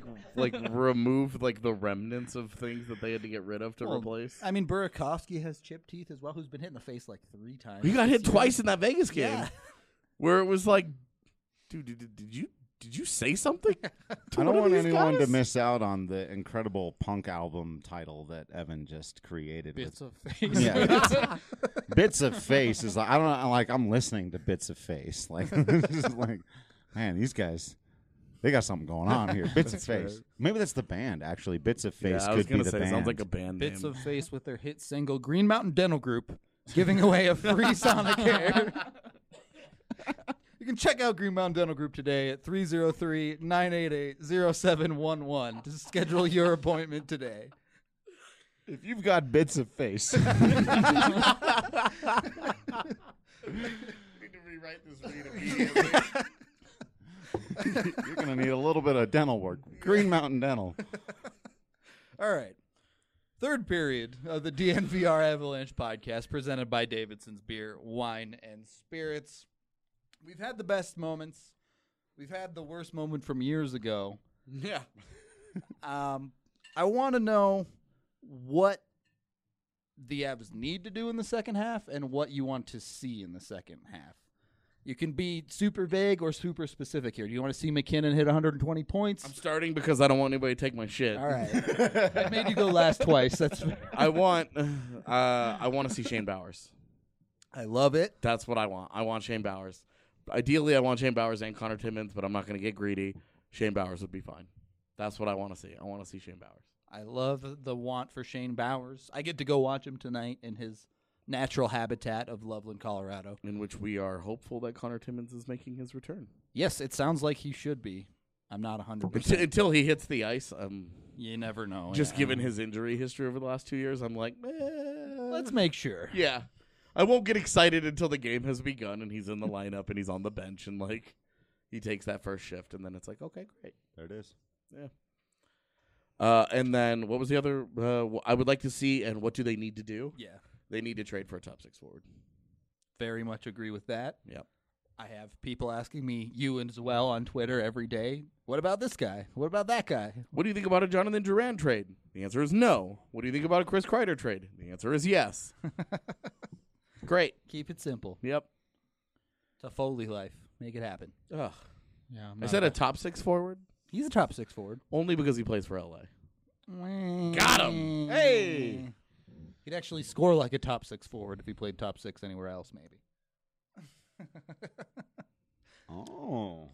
B: remove like the remnants of things that they had to get rid of to
A: Well,
B: replace.
A: I mean, Burakovsky has chipped teeth as well, who's been hit in the face like 3 times.
B: He got hit
A: this year.
B: twice in that Vegas game,
A: Yeah.
B: where it was like, dude, did you say something? to
C: I
B: one
C: don't
B: of
C: want
B: these
C: anyone to
B: guys?
C: miss out on the incredible punk album title that Evan just created.
E: Bits
C: with,
E: of face.
C: yeah, Bits of Face is like I don't know. Like I'm listening to Bits of Face. Like this is like, man, these guys, they got something going on here. Bits of Face. Maybe that's the band actually. Bits of Face
B: Yeah, I was
C: could be
B: gonna
C: the
B: say
C: band.
B: sounds like a band
A: Bits
B: name.
A: of Face with their hit single Green Mountain Dental Group giving away a free Sonic Air. You can check out Green Mountain Dental Group today at 303-988-0711 to schedule your appointment today.
C: If you've got Bits of Face,
B: need to rewrite this read immediately.
C: You're going to need a little bit of dental work. Green Mountain Dental.
A: All right. Third period of the DNVR Avalanche podcast presented by Davidson's Beer, Wine, and Spirits. We've had the best moments. We've had the worst moment from years ago.
B: Yeah.
A: I want to know what the Avs need to do in the second half and what you want to see in the second half. You can be super vague or super specific here. Do you want to see McKinnon hit 120 points?
B: I'm starting because I don't want anybody to take my shit.
A: All right. I made you go last twice. That's
B: I want to see Shane Bowers.
A: I love it.
B: That's what I want. I want Shane Bowers. Ideally, I want Shane Bowers and Connor Timmins, but I'm not going to get greedy. Shane Bowers would be fine. That's what I want to see. I want to see Shane Bowers.
A: I love the want for Shane Bowers. I get to go watch him tonight in his natural habitat of Loveland, Colorado.
B: In which we are hopeful that Connor Timmins is making his return.
A: Yes, it sounds like he should be. I'm not 100%.
B: Until he hits the ice,
A: You never know.
B: just
A: yeah.
B: given his injury history over the last 2 years, I'm like,
A: Let's make sure.
B: Yeah. I won't get excited until the game has begun and he's in the lineup and he's on the bench and, like, he takes that first shift and then it's like, okay, great.
C: There it is.
B: Yeah. And then what was the other I would like to see and what do they need to do?
A: Yeah.
B: They need to trade for a top 6 forward.
A: Very much agree with that.
B: Yep.
A: I have people asking me, you as well, on Twitter every day, what about this guy? What about that guy?
B: What do you think about a Jonathan Duran trade? The answer is no. What do you think about a Chris Kreider trade? The answer is yes. Great.
A: Keep it simple.
B: Yep.
A: It's a Foley life. Make it happen.
B: Ugh.
E: Yeah,
B: I said a top 6 forward
A: He's a top 6 forward.
B: only because he plays for LA.
A: Got
B: him.
C: Hey.
A: He'd actually score like a top 6 forward if he played top 6 anywhere else, maybe.
C: Oh.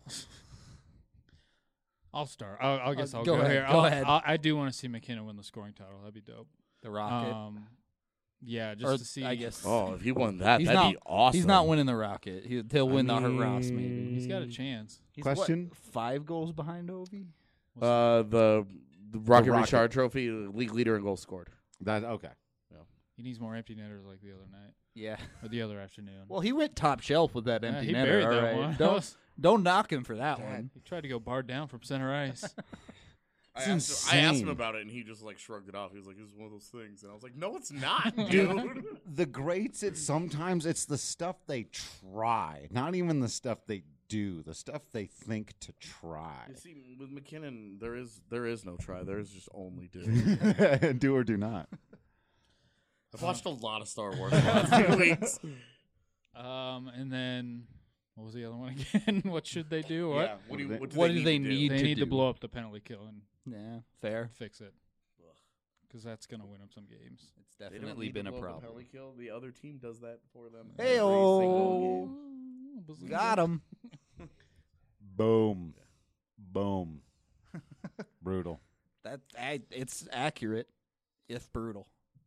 E: I'll start. I guess I'll
A: go
E: go
A: ahead.
E: here.
A: Go ahead.
E: I do want to see McKinnon win the scoring title. That'd be dope.
A: The Rocket.
E: Yeah, just
A: Or,
E: to see.
A: I guess.
B: Oh, if he won that,
A: He's
B: that'd
A: not-
B: be awesome.
A: He's not winning the Rocket. He'll win the Ross, maybe.
E: He's got a chance.
A: He's
C: Question?
A: What, 5 goals behind Ovi?
B: The Rocket
C: Rocket.
B: Richard Trophy, league leader in goals scored.
C: That okay.
E: He needs more empty netters like the other night
A: Yeah.
E: or the other afternoon.
A: Well, he went top shelf with that
E: Yeah,
A: empty
E: he
A: netter.
E: buried
A: all
E: that
A: right.
E: one.
A: Don't knock him for that one.
E: He tried to go bar down from center ice.
B: I
C: It's
B: asked him
C: insane.
B: about it, and he just like shrugged it off. He was like, "This is one of those things," and I was like, "No, it's not, dude."
C: The greats, sometimes it's the stuff they try, not even the stuff they do, the stuff they think to try.
B: You see, with McKinnon, there is no try. There is just only do.
C: Do or do not.
B: I've watched a lot of Star Wars the last few weeks.
E: And then what was the other one again? What should they do? What?
B: Yeah. What
A: What do
B: need
A: they
B: to do?
A: need?
E: They
A: to
E: need to
A: do.
E: blow up the penalty kill and
A: Yeah, fair.
E: fix it. Because that's going to win them some games.
A: It's
B: They don't
A: definitely
B: need to
A: been a
B: blow up
A: problem.
B: penalty kill. The other team does that for them.
A: Hey,
B: every single game.
A: Got him.
C: Boom. Boom. Brutal.
A: It's accurate, if brutal.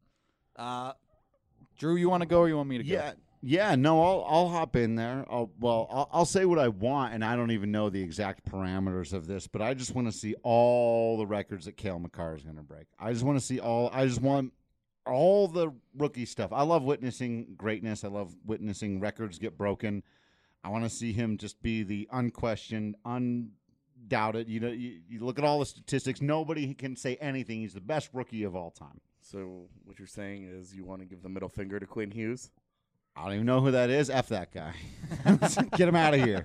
A: Drew, you want to go or you want me to go?
C: Yeah. No, I'll hop in there. I'll say what I want, and I don't even know the exact parameters of this, but I just want to see all the records that Cale Makar is going to break. I just want to see I just want all the rookie stuff. I love witnessing greatness. I love witnessing records get broken. I want to see him just be the unquestioned, undoubted. You know, you look at all the statistics. Nobody can say anything. He's the best rookie of all time.
B: So what you're saying is you want to give the middle finger to Quinn Hughes?
C: I don't even know who that is. F that guy. Get him out of here.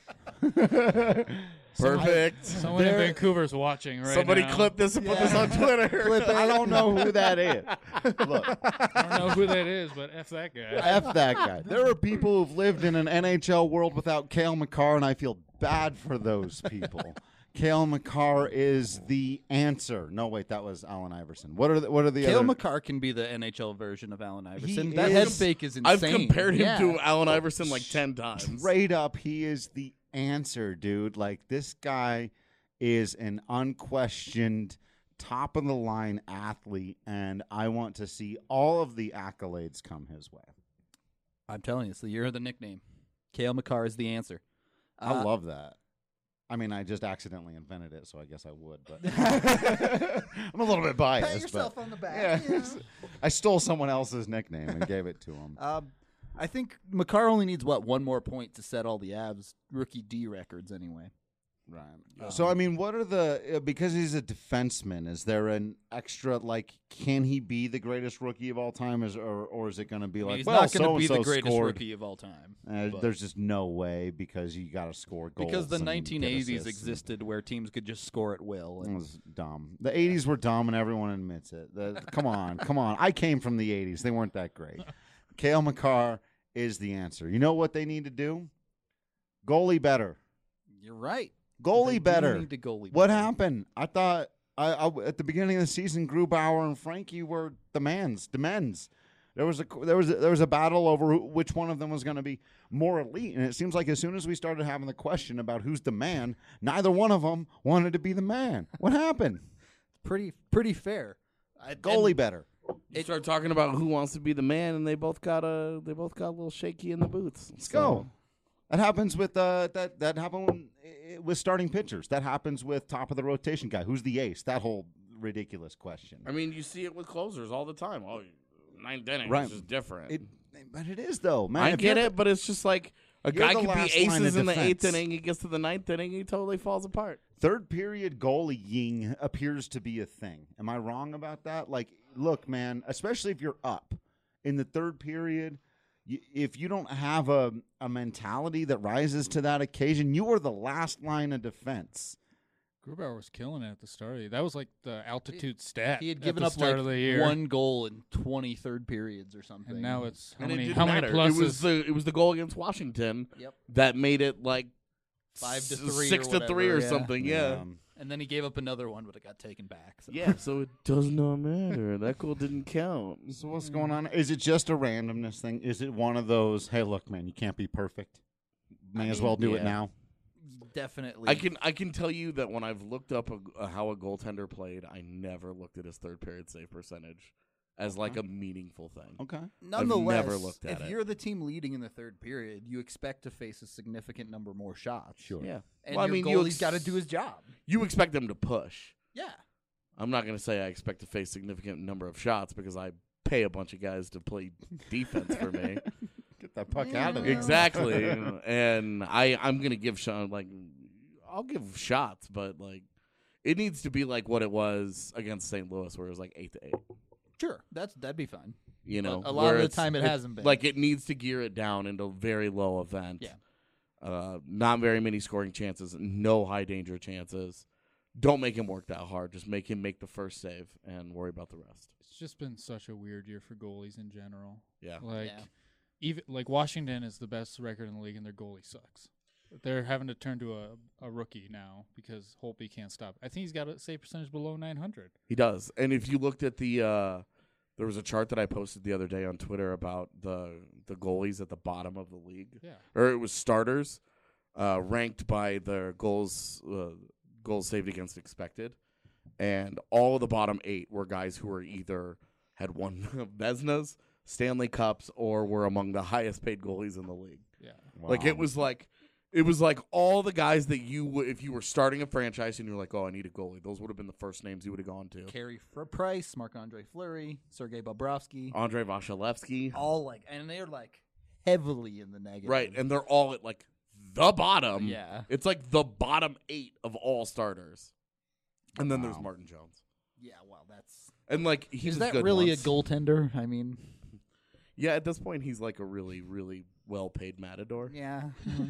B: Perfect.
E: Someone in Vancouver's watching right
B: Somebody
E: now.
B: clip this and put this on Twitter.
C: I don't know who that is. Look,
E: I don't know who that is, but F that guy.
C: F that guy. There are people who've lived in an NHL world without Cale Makar, and I feel bad for those people. Cale Makar is the answer. No, wait, that was Allen Iverson. What are the
A: Cale
C: other?
A: Makar can be the NHL version of Allen Iverson.
C: He
A: That head
C: is-
A: fake is insane.
B: I've compared him
A: Yeah.
B: to Allen Iverson like 10 times.
C: Straight up, he is the answer, dude. Like, this guy is an unquestioned top of the line athlete, and I want to see all of the accolades come his way.
A: I'm telling you, it's the year of the nickname. Cale Makar is the answer.
C: I love that. I mean, I just accidentally invented it, so I guess I would. But I'm a little bit biased.
A: Pat yourself
C: but
A: on the back.
C: Yeah. I stole someone else's nickname and gave it to him.
A: I think Makar only needs one more point to set all the Avs rookie D records anyway.
C: Right. So, I mean, what are the because he's a defenseman, is there an extra, like, can he be the greatest rookie of all time, or is it going to be like,
A: he's
C: well,
A: not going to be the
C: so-and-so
A: greatest
C: scored.
A: rookie of all time. but-
C: There's just no way because you got to score goals.
A: because the
C: and get
A: 1980s
C: assists.
A: existed where teams could just score at will.
C: It
A: And
C: was dumb. The 80s were dumb, and everyone admits it. Come on. I came from the 80s. They weren't that great. Cale Makar is the answer. You know what they need to do? Goalie better.
A: you're right.
C: Goalie
A: They do
C: better.
A: need to goalie
C: What
A: better.
C: happened? I thought I at the beginning of the season, Grubauer and Frankie were the men's. There was a battle over which one of them was going to be more elite, and it seems like as soon as we started having the question about who's the man, neither one of them wanted to be the man. What happened?
A: Pretty fair.
C: Goalie better.
B: You start talking about who wants to be the man, and they both got a little shaky in the boots.
C: Let's go. That happens with that happened with starting pitchers. That happens with top of the rotation guy. Who's the ace? That whole ridiculous question.
B: I mean, you see it with closers all the time. Oh, ninth inning
C: Right.
B: is just different.
C: But it is though, man.
B: I
C: If
B: get
C: you're-
B: it, but it's just like a
C: You're
B: guy
C: the
B: could be
C: last line
B: aces
C: of
B: in the eighth
C: defense.
B: inning. He gets to the ninth inning, he totally falls apart.
C: Third period goalieing appears to be a thing. Am I wrong about that? Like, look, man, especially if you're up in the third period, if you don't have a mentality that rises to that occasion, you are the last line of defense.
E: Grubauer was killing it at the start. That was like the altitude stat.
A: He had
E: at
A: given
E: the
A: up
E: start
A: like
E: of the year.
A: one goal in 20 third periods or something.
E: and now it's how
B: And it
E: many
B: didn't
E: how many
B: matter.
E: pluses?
B: It was the goal against Washington
A: Yep.
B: that made it like
A: 5-3
B: 6
A: or
B: to 3 or
A: whatever, yeah.
B: something. Yeah.
A: And then he gave up another one, but it got taken back. So.
B: Yeah, so it does not matter. That goal didn't count.
C: So what's going on? Is it just a randomness thing? Is it one of those, hey, look, man, you can't be perfect. May as well do it
B: yeah.
C: now.
A: Definitely.
B: I can tell you that when I've looked up how a goaltender played, I never looked at his third period save percentage as like a meaningful thing.
C: Okay.
A: Nonetheless,
B: never looked at
A: if
B: it.
A: you're the team leading in the third period, you expect to face a significant number more shots.
C: Sure.
B: Yeah.
A: And
B: Well, I
A: your
B: mean, you
A: goalie's got to do his job.
B: You expect them to push.
A: Yeah.
B: I'm not going to say I expect to face significant number of shots because I pay a bunch of guys to play defense for me.
C: Get that puck out of there.
B: Exactly. And I'm going to give I'll give shots, but like it needs to be like what it was against St. Louis where it was like 8-8.
A: Sure. That'd be fine.
B: You know,
A: But a lot
B: where
A: of the
B: it's-
A: time it hasn't been.
B: Like it needs to gear it down into a very low event.
A: Yeah.
B: Not very many scoring chances, no high danger chances. Don't make him work that hard. Just make him make the first save and worry about the rest.
E: It's just been such a weird year for goalies in general.
B: Yeah.
E: Like
A: Yeah.
E: even like Washington is the best record in the league and their goalie sucks. They're having to turn to a rookie now because Holtby can't stop. I think he's got a save percentage below 900.
B: He does. And if you looked at the there was a chart that I posted the other day on Twitter about the goalies at the bottom of the league.
E: Yeah.
B: Or it was starters ranked by their goals saved against expected. And all of the bottom 8 were guys who were either had won Vezinas, Stanley Cups, or were among the highest paid goalies in the league.
E: Yeah.
B: Like it was like all the guys that if you were starting a franchise and you're like, oh, I need a goalie, those would have been the first names you would have gone to.
A: Carey Price, Marc-Andre Fleury, Sergei Bobrovsky.
B: Andre Vasilevsky.
A: All and they're like heavily in the negative.
B: Right, and they're all at like the bottom.
A: Yeah.
B: It's like the bottom 8 of all starters. And then there's Martin Jones.
A: Yeah, well, that's.
B: And like he's
A: Is that
B: good
A: really
B: once.
A: a goaltender? I mean,
B: Yeah, at this point he's like a really, really well-paid matador
A: yeah.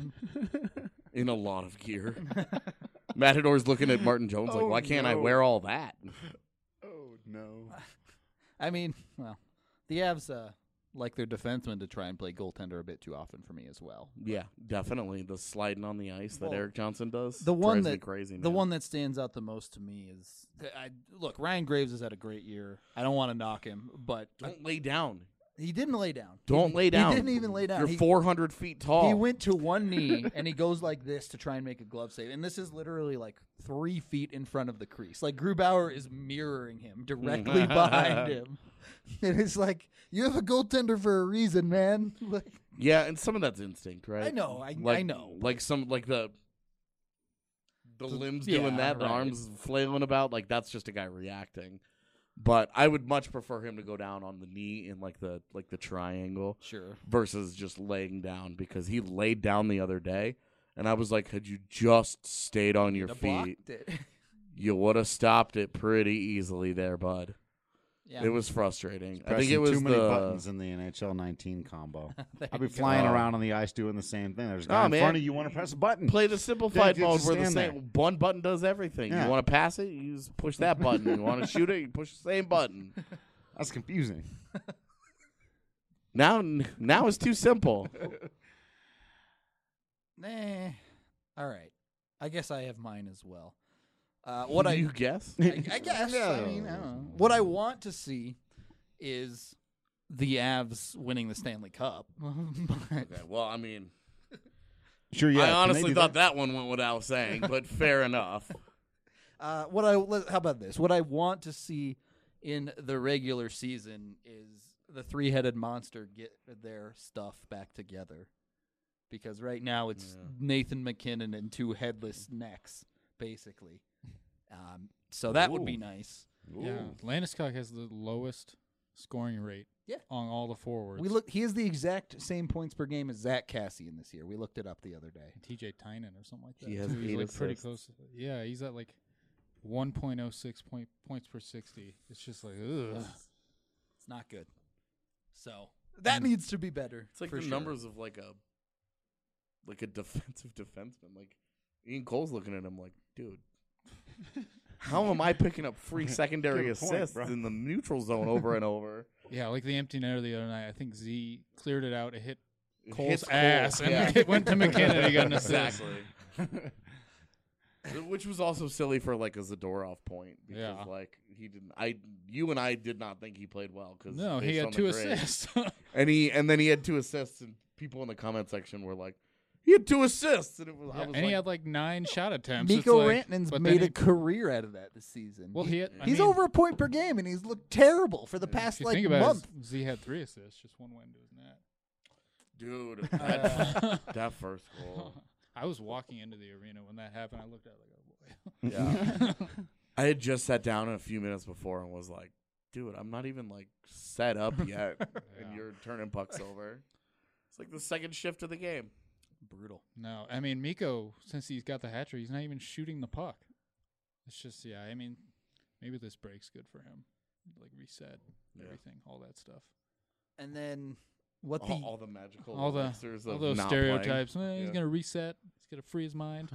B: in a lot of gear. Matador's looking at Martin Jones like,
C: Oh,
B: why can't I
C: no.
B: wear all that?
C: Oh, no.
A: I mean, well, the Avs like their defensemen to try and play goaltender a bit too often for me as well.
B: Yeah, definitely. The sliding on the ice that
A: Well,
B: Eric Johnson does.
A: The one
B: drives me
A: that
B: crazy.
A: the
B: man.
A: one that stands out the most to me is look, Ryan Graves has had a great year. I don't want to knock him, but
B: Don't lay down.
A: he didn't lay down.
B: Don't lay down.
A: He didn't even lay down.
B: You're
A: He-
B: 400 feet tall.
A: He went to one knee and he goes like this to try and make a glove save. And this is literally like 3 feet in front of the crease. Like Grubauer is mirroring him directly behind him. And it's like, you have a goaltender for a reason, man. Like,
B: Yeah, and some of that's instinct, right?
A: I know, I
B: Like,
A: know.
B: Like some like the limbs
A: yeah,
B: doing that, the
A: right.
B: arms flailing about, like that's just a guy reacting. But I would much prefer him to go down on the knee in like the triangle
A: Sure.
B: versus just laying down because he laid down the other day And I was like, had you just stayed on your
A: You'd have
B: feet,
A: blocked it.
B: you would have stopped it pretty easily there, bud.
A: Yeah.
B: It was frustrating. I think
C: Pressing
B: it was
C: too many
B: the
C: buttons in the NHL 19 combo.
A: There
C: I'll be
A: you go.
C: flying around on the ice doing the same thing. There's a guy
B: Oh,
C: in
B: man.
C: front of you. Want to press a button?
B: play the simplified
C: Yeah,
B: mode
C: just
B: where the
C: stand
B: same one button does everything.
C: Yeah.
B: You want to pass it, you just push that button. You want to shoot it, you push the same button.
C: That's confusing.
B: Now it's too simple.
A: Nah. All right. I guess I have mine as well. What
B: you guess?
A: I guess. I mean, I don't know. What I want to see is the Avs winning the Stanley Cup. But,
B: Okay, well, I mean,
C: Sure, yeah.
B: I
C: can they
B: honestly
C: do
B: thought that one went without saying, but fair enough.
A: how about this? What I want to see in the regular season is the three-headed monster get their stuff back together. Because right now it's Nathan McKinnon and two headless necks, basically. So that would be
B: Ooh.
A: nice.
E: Yeah, Landeskog has the lowest scoring rate.
A: Yeah.
E: On all the forwards.
A: He has the exact same points per game as Zach Cassian this year. We looked it up the other day.
E: TJ Tynan or something like that.
B: He has
E: too. He's
B: 8
E: like pretty
B: assists.
E: close. Yeah, he's at like 1.06 points per 60. It's just like ugh.
A: It's not good. So that needs to be better.
B: It's like
A: for
B: the
A: sure.
B: numbers of like a defensive defenseman. Like Ian Cole's looking at him like, dude, how am I picking up free secondary
C: Good point,
B: assists
C: bro.
B: in the neutral zone over and over?
E: Yeah, like the empty netter the other night. I think Z cleared it out. It hit
B: It
E: Cole's
B: hits Cole,
E: ass, and
B: yeah.
E: it went to McKinnon. He got an assist.
B: Exactly. Which was also silly for like a Zadorov point because
E: Yeah.
B: like he didn't. You and I did not think he played well because
E: No, he had 2 assists.
B: and then he had 2 assists, and people in the comment section were like, he had 2 assists, and it was. I was
E: and
B: like,
E: he had like 9 shot attempts. It's
A: Mikko
E: like,
A: Rantanen's
E: but
A: made
E: then
A: a career out of that this season.
E: Well, he had, I
A: he's
E: mean,
A: over a point per game, and he's looked terrible for the
E: If
A: past
E: you
A: like
E: think about
A: month.
E: it, Z had 3 assists, just one went into his net.
B: dude,
E: Uh,
B: that first goal.
E: I was walking into the arena when that happened. I looked at it like, oh boy.
B: Yeah. I had just sat down a few minutes before and was like, dude, I'm not even like set up yet, and
E: Yeah.
B: you're turning pucks over. It's like the second shift of the game.
A: Brutal.
E: No, I mean Mikko, since he's got the hat trick, he's not even shooting the puck. It's just I mean, maybe this break's good for him. Like reset
B: Yeah.
E: everything, all that stuff.
A: And then what
B: All the magical
E: All the
B: elixirs
E: all
B: of
E: those
B: not
E: stereotypes.
B: playing.
E: He's
B: Yeah.
E: gonna reset. He's gonna free his mind.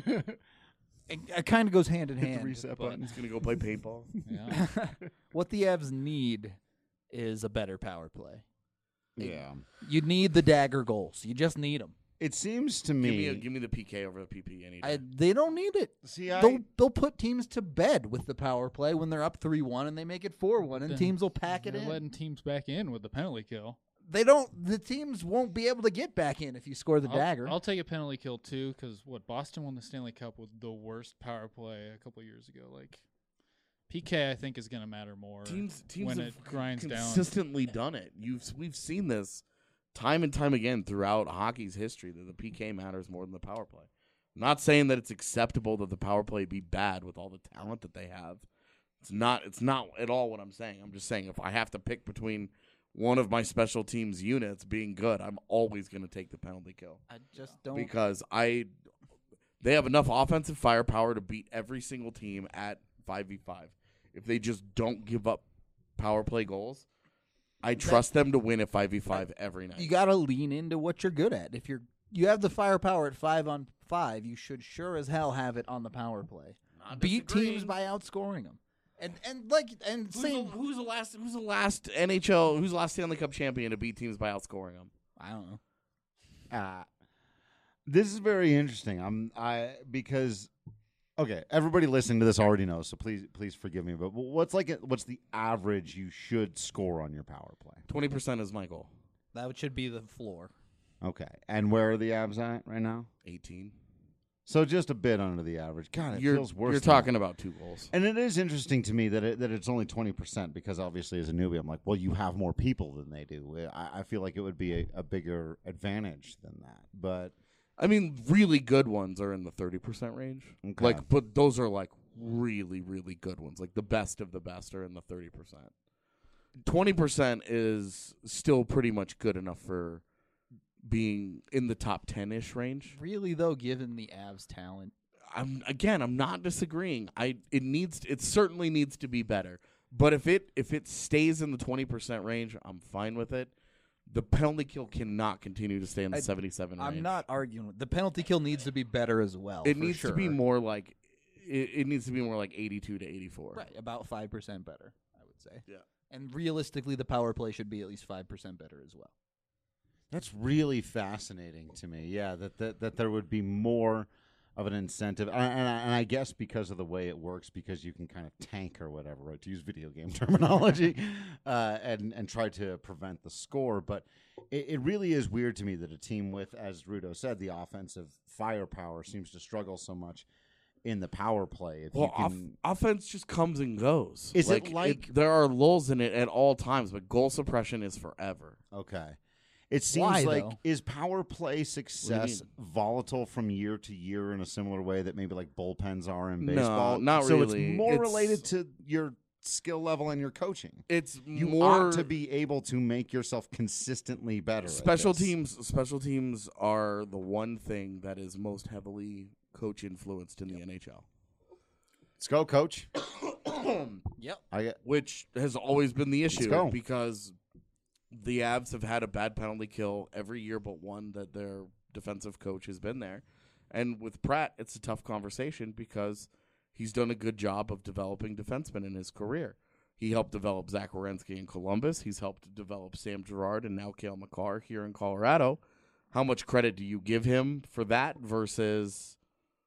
A: it kind of goes hand in
C: Hit the
A: hand.
C: reset
A: but
C: button.
B: He's gonna go play paintball.
E: Yeah.
A: what the Avs need is a better power play.
C: Yeah.
A: You need the dagger goals. You just need them.
C: It seems to me.
B: Give me the PK over the PP any day.
A: They don't need it.
C: See,
A: They'll put teams to bed with the power play when they're up 3-1 and they make it 4-1 and
E: Then
A: teams will pack it
E: They're
A: in.
E: letting teams back in with the penalty kill.
A: They don't. The teams won't be able to get back in if you score the dagger.
E: I'll take a penalty kill too, because Boston won the Stanley Cup with the worst power play a couple years ago. Like PK, I think is going to matter more.
B: teams
E: when
B: have
E: it grinds down.
B: consistently done it. We've seen this time and time again throughout hockey's history that the PK matters more than the power play. I'm not saying that it's acceptable that the power play be bad with all the talent that they have. It's not at all what I'm saying. I'm just saying if I have to pick between one of my special teams units being good, I'm always going to take the penalty kill
A: I just don't.
B: because they have enough offensive firepower to beat every single team at 5v5. If they just don't give up power play goals, I trust them to win at 5v5 every night.
A: You got to lean into what you're good at. If you have the firepower at 5-on-5, you should sure as hell have it on the power play.
B: Not
A: Beat
B: disagreeing.
A: teams by outscoring them.
B: Who's the last NHL? Who's the last Stanley Cup champion to beat teams by outscoring them?
A: I don't know.
C: This is very interesting. Because okay, everybody listening to this already knows, so please forgive me. But what's the average you should score on your power play?
B: 20% is my goal.
A: That should be the floor.
C: Okay, and where are the Avs at right now?
B: 18.
C: So just a bit under the average. God, it feels worse.
B: You're
C: than
B: talking
C: that.
B: about 2 goals.
C: And it is interesting to me that it's only 20% because obviously as a newbie, I'm like, well, you have more people than they do. I feel like it would be a bigger advantage than that. But
B: I mean, really good ones are in the 30% range.
C: Okay.
B: But those are like really, really good ones. Like the best of the best are in the 30%. 20% is still pretty much good enough for being in the top 10-ish range.
A: Really, though, given the Avs' talent,
B: I'm not disagreeing. It certainly needs to be better. But if it stays in the 20% range, I'm fine with it. The penalty kill cannot continue to stay in the 77 range.
A: I'm not arguing. The penalty kill needs to be better as well.
B: It
A: for
B: needs
A: sure.
B: to be more like it needs to be more like 82 to 84.
A: Right, about 5% better, I would say.
B: Yeah.
A: And realistically, the power play should be at least 5% better as well.
C: That's really fascinating to me. Yeah, that there would be more of an incentive, and I guess because of the way it works, because you can kind of tank or whatever, right, to use video game terminology, and try to prevent the score. But it really is weird to me that a team with, as Rudo said, the offensive firepower seems to struggle so much in the power play. If you can,
B: offense just comes and goes.
C: Is it like
B: there are lulls in it at all times, but goal suppression is forever.
C: okay? It seems
A: Why,
C: like
A: though?
C: Is power play success volatile from year to year in a similar way that maybe like bullpens are in
B: No,
C: baseball?
B: not
C: so
B: really.
C: it's more
B: It's-
C: related to your skill level and your coaching.
B: It's
C: You
B: more
C: ought to be able to make yourself consistently better. at
B: special
C: this.
B: teams. Special teams are the one thing that is most heavily coach influenced in the NHL,
C: Let's go, coach.
A: Yep.
C: I get
B: which has always been the issue
C: go.
B: because the Avs have had a bad penalty kill every year but one that their defensive coach has been there. And with Pratt, it's a tough conversation because he's done a good job of developing defensemen in his career. He helped develop Zach Werenski in Columbus. He's helped develop Sam Girard and now Cale Makar here in Colorado. How much credit do you give him for that versus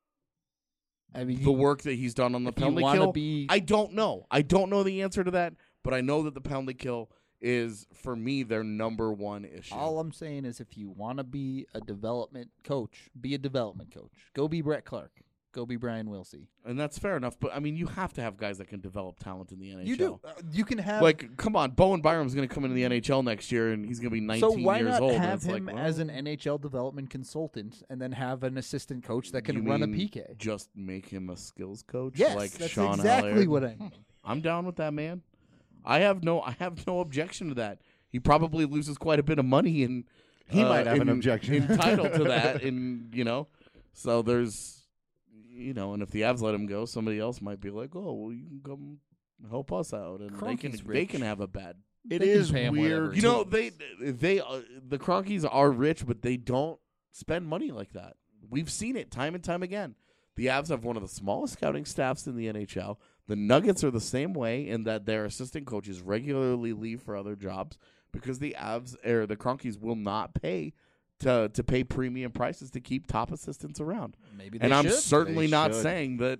A: I mean,
B: the work that he's done on the
A: if you
B: penalty
A: wanna
B: kill?
A: be-
B: I don't know. I don't know the answer to that, but I know that the penalty kill is, for me, their number one issue.
A: all I'm saying is if you want to be a development coach, be a development coach. Go be Brett Clark. Go be Brian Wilsey.
B: And that's fair enough, but I mean, you have to have guys that can develop talent in the NHL.
A: You do. You can have
B: Like, come on, Bowen Byram's going to come into the NHL next year, and he's going to be 19
A: so why
B: years
A: not
B: old. and
A: have
B: it's
A: him
B: like,
A: as
B: well,
A: an NHL development consultant and then have an assistant coach that
B: you
A: can run a
B: mean
A: PK?
B: Just make him a skills coach,
A: Yes,
B: like
A: that's
B: Sean
A: exactly
B: Allard?
A: what I mean.
B: I'm down with that, man. I have no objection to that. He probably loses quite a bit of money, and
C: He might have an objection.
B: entitled to that, and so there's, and if the Avs let him go, somebody else might be like, oh, well, you can come help us out, and
A: Kroenke's
B: they
A: rich.
B: can have a bad.
C: it
A: They can
C: is
A: pay him
C: weird.
A: whatever.
B: The Cronkies are rich, but they don't spend money like that. We've seen it time and time again. The Avs have one of the smallest scouting staffs in the NHL. The Nuggets are the same way in that their assistant coaches regularly leave for other jobs because the Cronkies will not pay to pay premium prices to keep top assistants around.
A: Maybe they
B: And I'm
A: should.
B: certainly
C: They
B: not
C: should.
B: saying that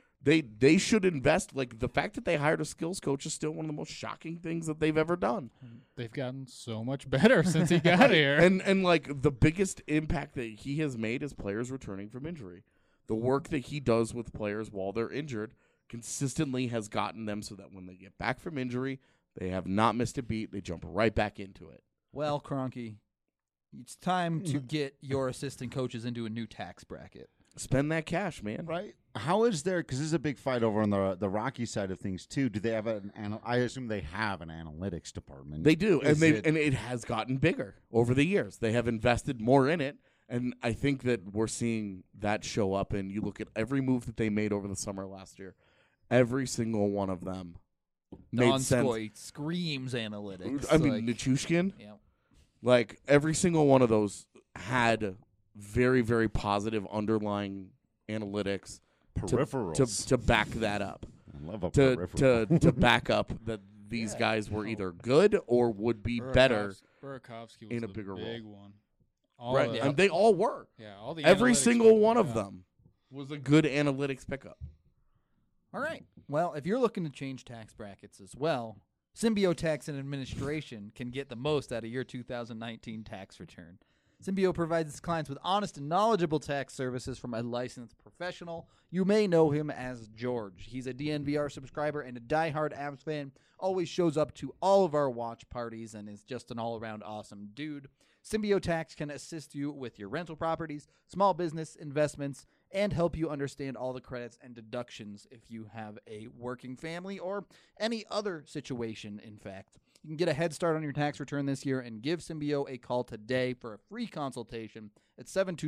B: they should invest. Like, the fact that they hired a skills coach is still one of the most shocking things that they've ever done.
E: They've gotten so much better since he got here.
B: And like, the biggest impact that he has made is players returning from injury. The work that he does with players while they're injured consistently has gotten them so that when they get back from injury, they have not missed a beat. They jump right back into it.
A: Well, Kroenke, it's time to get your assistant coaches into a new tax bracket.
B: Spend that cash, man.
C: Right? How is there? Because this is a big fight over on the Rocky side of things too. Do they have I assume they have an analytics department.
B: They do,
C: Is
B: and it has gotten bigger over the years. They have invested more in it, and I think that we're seeing that show up. And you look at every move that they made over the summer last year, every single one of them made sense.
A: Donskoy screams analytics.
B: I mean, Nichushkin,
A: yeah.
B: like every single one of those had very, very positive underlying analytics
C: peripherals
B: to back that up.
C: I love a
B: To
C: peripheral.
B: to back up that these guys were either good or would be better.
E: Burakovsky was
B: in a
E: the
B: bigger role.
E: big one. All
B: Right,
E: the-
B: and they all were.
E: yeah, all the
B: Every
E: analytics
B: single
E: people,
B: one of
E: yeah.
B: them was a good analytics pickup.
A: All right. Well, if you're looking to change tax brackets as well, Symbio Tax and Administration can get the most out of your 2019 tax return. Symbio provides its clients with honest and knowledgeable tax services from a licensed professional. You may know him as George. He's a DNVR subscriber and a diehard Avs fan. Always shows up to all of our watch parties and is just an all-around awesome dude. Symbio Tax can assist you with your rental properties, small business investments, and help you understand all the credits and deductions if you have a working family or any other situation, in fact. You can get a head start on your tax return this year and give Symbio a call today for a free consultation at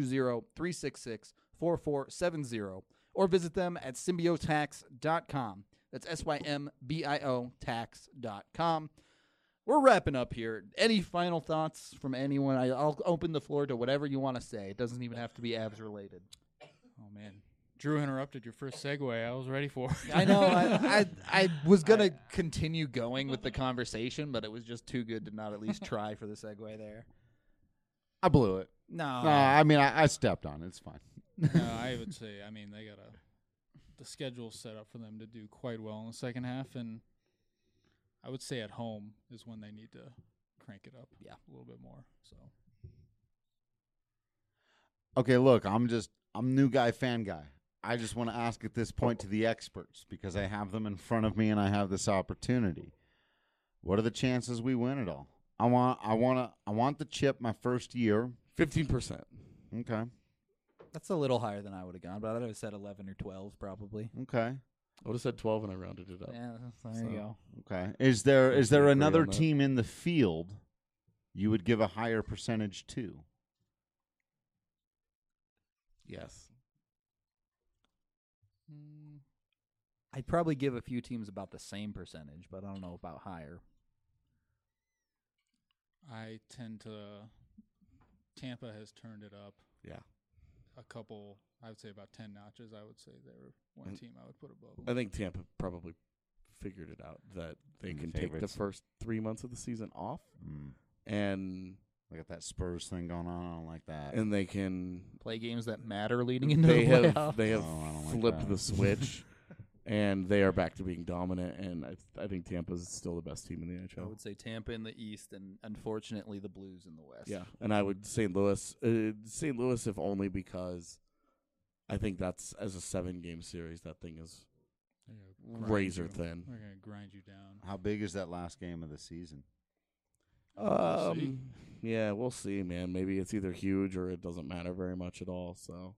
A: 720-366-4470 or visit them at symbiotax.com. That's SYMBIO tax.com. We're wrapping up here. Any final thoughts from anyone? I'll open the floor to whatever you want to say. It doesn't even have to be Avs related.
E: Oh, man. Drew interrupted your first segue. I was ready for it.
A: I know. I was going to continue going with the conversation, but it was just too good to not at least try for the segue there.
C: I blew it.
A: No.
C: I mean, I stepped on it. It's fine.
E: No, I would say, I mean, they got the schedule set up for them to do quite well in the second half, and I would say at home is when they need to crank it up a little bit more. So,
C: Okay, look, I'm new guy, fan guy. I just want to ask at this point to the experts because I have them in front of me and I have this opportunity. What are the chances we win it all? I want the chip my first year.
B: 15%.
C: Okay.
A: That's a little higher than I would have gone, but I would have said 11 or 12 probably.
C: Okay.
B: I would have said 12 and I rounded it up.
A: Yeah, there you go.
C: Okay. Is there
B: agree
C: another
B: on that.
C: team in the field you would give a higher percentage to?
B: Yes.
A: I'd probably give a few teams about the same percentage, but I don't know about higher.
E: I tend to Tampa has turned it up.
B: Yeah.
E: A couple, I would say about 10 notches. I would say they're one team I would put above
B: I
E: them.
B: think Tampa probably figured it out that they
C: And
B: can
C: the
B: take the
C: favorites.
B: first 3 months of the season off
C: Mm.
B: and
C: I got that Spurs thing going on. I don't like that.
B: they can
A: Play games that matter leading into
B: they
A: the
B: have
A: playoffs.
B: they have
C: Oh, I don't like
B: flipped
C: that.
B: the switch and they are back to being dominant and I think Tampa's still the best team in the
A: I
B: NHL.
A: would say Tampa in the East and unfortunately the Blues in the West.
B: Yeah, and I would St. Louis if only because I think that's as a 7-game series that thing is
E: They're gonna grind
B: razor
E: you.
B: thin.
E: They're going to grind you down.
C: How big is that last game of the season?
E: We'll see.
B: Yeah, we'll see, man. Maybe it's either huge or it doesn't matter very much at all. So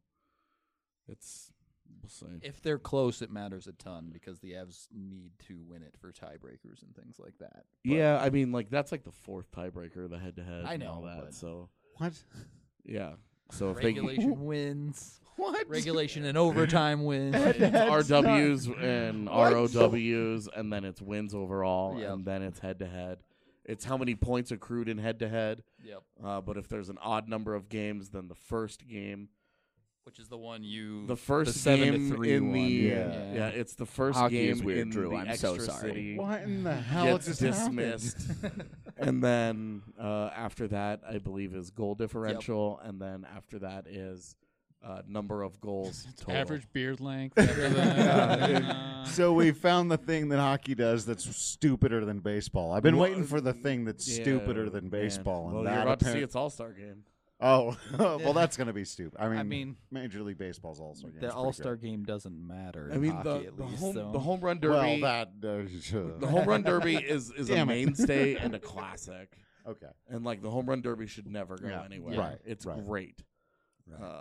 B: we'll see.
A: If they're close, it matters a ton because the Avs need to win it for tiebreakers and things like that. But
B: Yeah, I mean, like that's like the 4th tiebreaker, the head-to-head.
A: I
B: and all
A: know,
B: that.
A: but-
B: So
C: What?
B: yeah, so if
A: regulation wins.
C: What?
A: Regulation and overtime wins.
B: it's RWs and
C: What?
B: ROWs, and then it's wins overall,
A: Yep.
B: and then it's head-to-head. It's how many points accrued in head-to-head.
A: Yep.
B: But if there's an odd number of games, then the first game,
A: Which is the one you
B: the first
A: 7-3
B: game in
A: one.
B: the
C: Yeah.
B: it's the first
F: Hockey
B: game
F: is weird,
B: in
F: Drew.
B: the
F: I'm so
B: extra
F: sorry.
B: city.
C: What in the hell
B: Gets
C: just happened?
B: dismissed. And then after that, I believe is goal differential, and then after that is number of goals total.
E: Average beard length. After that.
C: So we found the thing that hockey does that's stupider than baseball. I've been
B: Well,
C: waiting for the thing that's
B: Yeah,
C: stupider than
B: man.
C: baseball. And
B: Well,
C: that
B: you're about to see
C: apparent-
B: its All-Star game.
C: Oh, well, that's going to be stupid.
A: I mean,
C: Major League Baseball's All-Star game.
A: the All-Star game doesn't matter.
B: I
A: in
B: mean,
A: hockey at least, so.
B: the home run derby.
C: Well, that.
B: The home run derby is a
C: Damn it.
B: mainstay and a classic,
C: Okay.
B: and like the home run derby should never go
C: Yeah,
B: anywhere.
C: right,
B: It's
C: right.
B: great.
C: Right.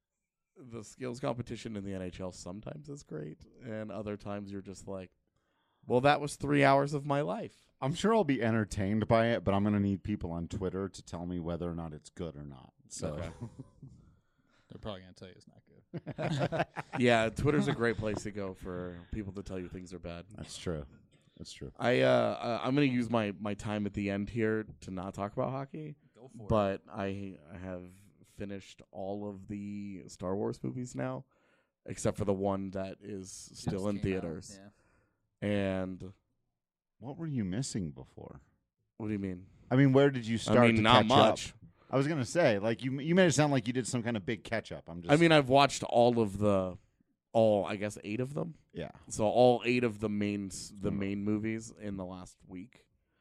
B: The skills competition in the NHL sometimes is great, and other times you're just like, well, that was 3 hours of my life.
C: I'm sure I'll be entertained by it, but I'm going to need people on Twitter to tell me whether or not it's good or not. So,
B: Okay.
E: They're probably going to tell you it's not good.
B: Yeah, Twitter's a great place to go for people to tell you things are bad.
C: that's true. That's true.
B: I'm going to use my time at the end here to not talk about hockey,
A: Go for it.
B: but I have finished all of the Star Wars movies now, except for the one that is still
A: Just
B: in
A: came out,
B: theaters.
A: yeah.
B: And
C: What were you missing before?
B: what do you mean?
C: I mean, where did you start?
B: I mean,
C: to
B: not
C: catch
B: much.
C: Up? I was going to say, like, you made it sound like you did some kind of big catch up. I'm just.
B: I mean, I've watched all I guess 8 of them.
C: yeah.
B: So all 8 of the main movies in the last week.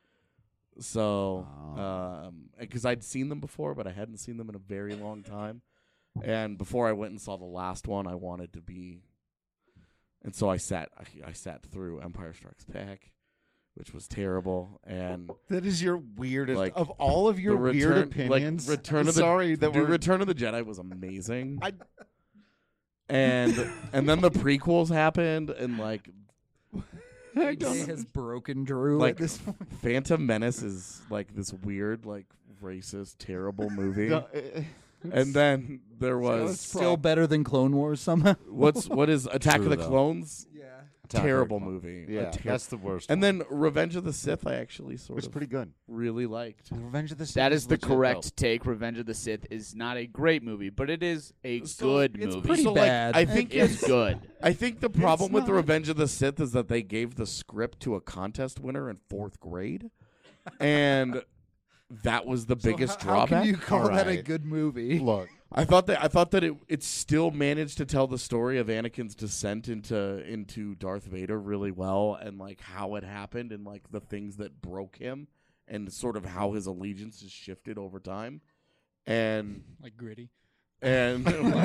B: So, because I'd seen them before, but I hadn't seen them in a very long time. And before I went and saw the last one, I wanted to be, and so I sat through Empire Strikes Back, which was terrible. And
C: That is your weirdest
B: Like,
C: of all of your
B: the
C: weird
B: return, like,
C: opinions.
B: Return
C: I'm
B: of the
C: sorry that
B: dude,
C: we're
B: Return of the Jedi was amazing. And then the prequels happened, and like
A: AJ has broken Drew
B: Like,
A: at this point.
B: Phantom Menace is like this weird, like racist, terrible movie. And then there was
A: Still better than Clone Wars somehow.
B: what is Attack
C: True,
B: of the
C: though.
B: Clones?
A: Yeah.
B: Terrible movie.
C: Yeah, that's the worst.
B: And
C: one.
B: then Revenge of the Sith, I actually sort
C: It's
B: of
C: pretty good.
B: really liked.
C: Revenge of the Sith.
F: That is the
C: legit,
F: correct
C: though.
F: take. Revenge of the Sith is not a great movie, but it is a
B: So
F: good
B: it's
F: movie.
A: pretty
B: So,
A: bad.
B: Like, I think
F: It's good.
B: I think the problem with the
C: not.
B: Revenge of the Sith is that they gave the script to a contest winner in 4th grade, and that was the biggest
A: How
B: drawback.
A: can you call
C: All
A: that a
C: right.
A: good movie?
C: Look,
B: I thought that it still managed to tell the story of Anakin's descent into Darth Vader really well, and like how it happened, and like the things that broke him, and sort of how his allegiance has shifted over time, and
E: Like Gritty.
C: man,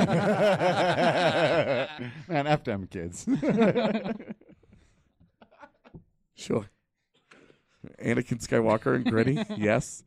C: F them kids.
B: Sure. Anakin Skywalker and Gritty, yes.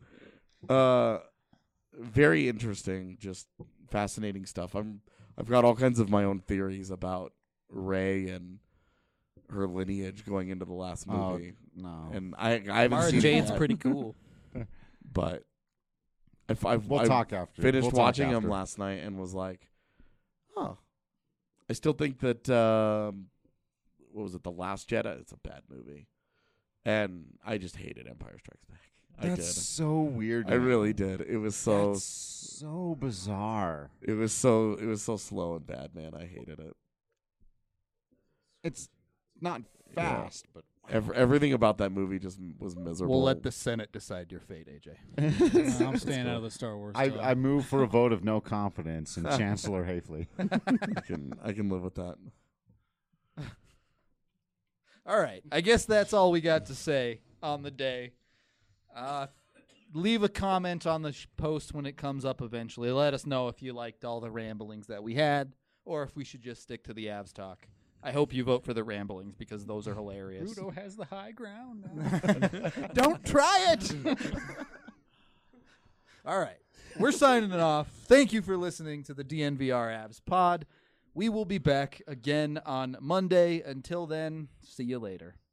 B: Very interesting, just fascinating stuff. I've got all kinds of my own theories about Rey and her lineage going into the last movie.
C: No.
B: And I haven't
A: Mara
B: seen
A: Jade's
B: it yet,
A: pretty cool.
B: but
C: We'll
B: I
C: talk after.
B: finished
C: We'll talk
B: watching
C: after.
B: them last night and was like, huh. I still think that what was it, The Last Jedi? It's a bad movie. And I just hated Empire Strikes Back. I
C: That's
B: did.
C: so weird.
B: I
C: man.
B: really did. It was so
C: That's so bizarre.
B: it was so slow and bad, man. I hated it.
C: It's not fast, but
B: Everything about that movie just was miserable.
A: We'll let the Senate decide your fate, AJ.
E: I'm staying out of the Star Wars.
C: I
E: stuff.
C: move for a vote of no confidence in Chancellor Hafley.
B: I can live with that.
A: All right. I guess that's all we got to say on the day. Leave a comment on the post when it comes up eventually. Let us know if you liked all the ramblings that we had or if we should just stick to the Avs talk. I hope you vote for the ramblings because those are hilarious.
E: Rudo has the high ground now.
A: Don't try it. All right. We're signing it off. Thank you for listening to the DNVR Avs pod. We will be back again on Monday. Until then, see you later.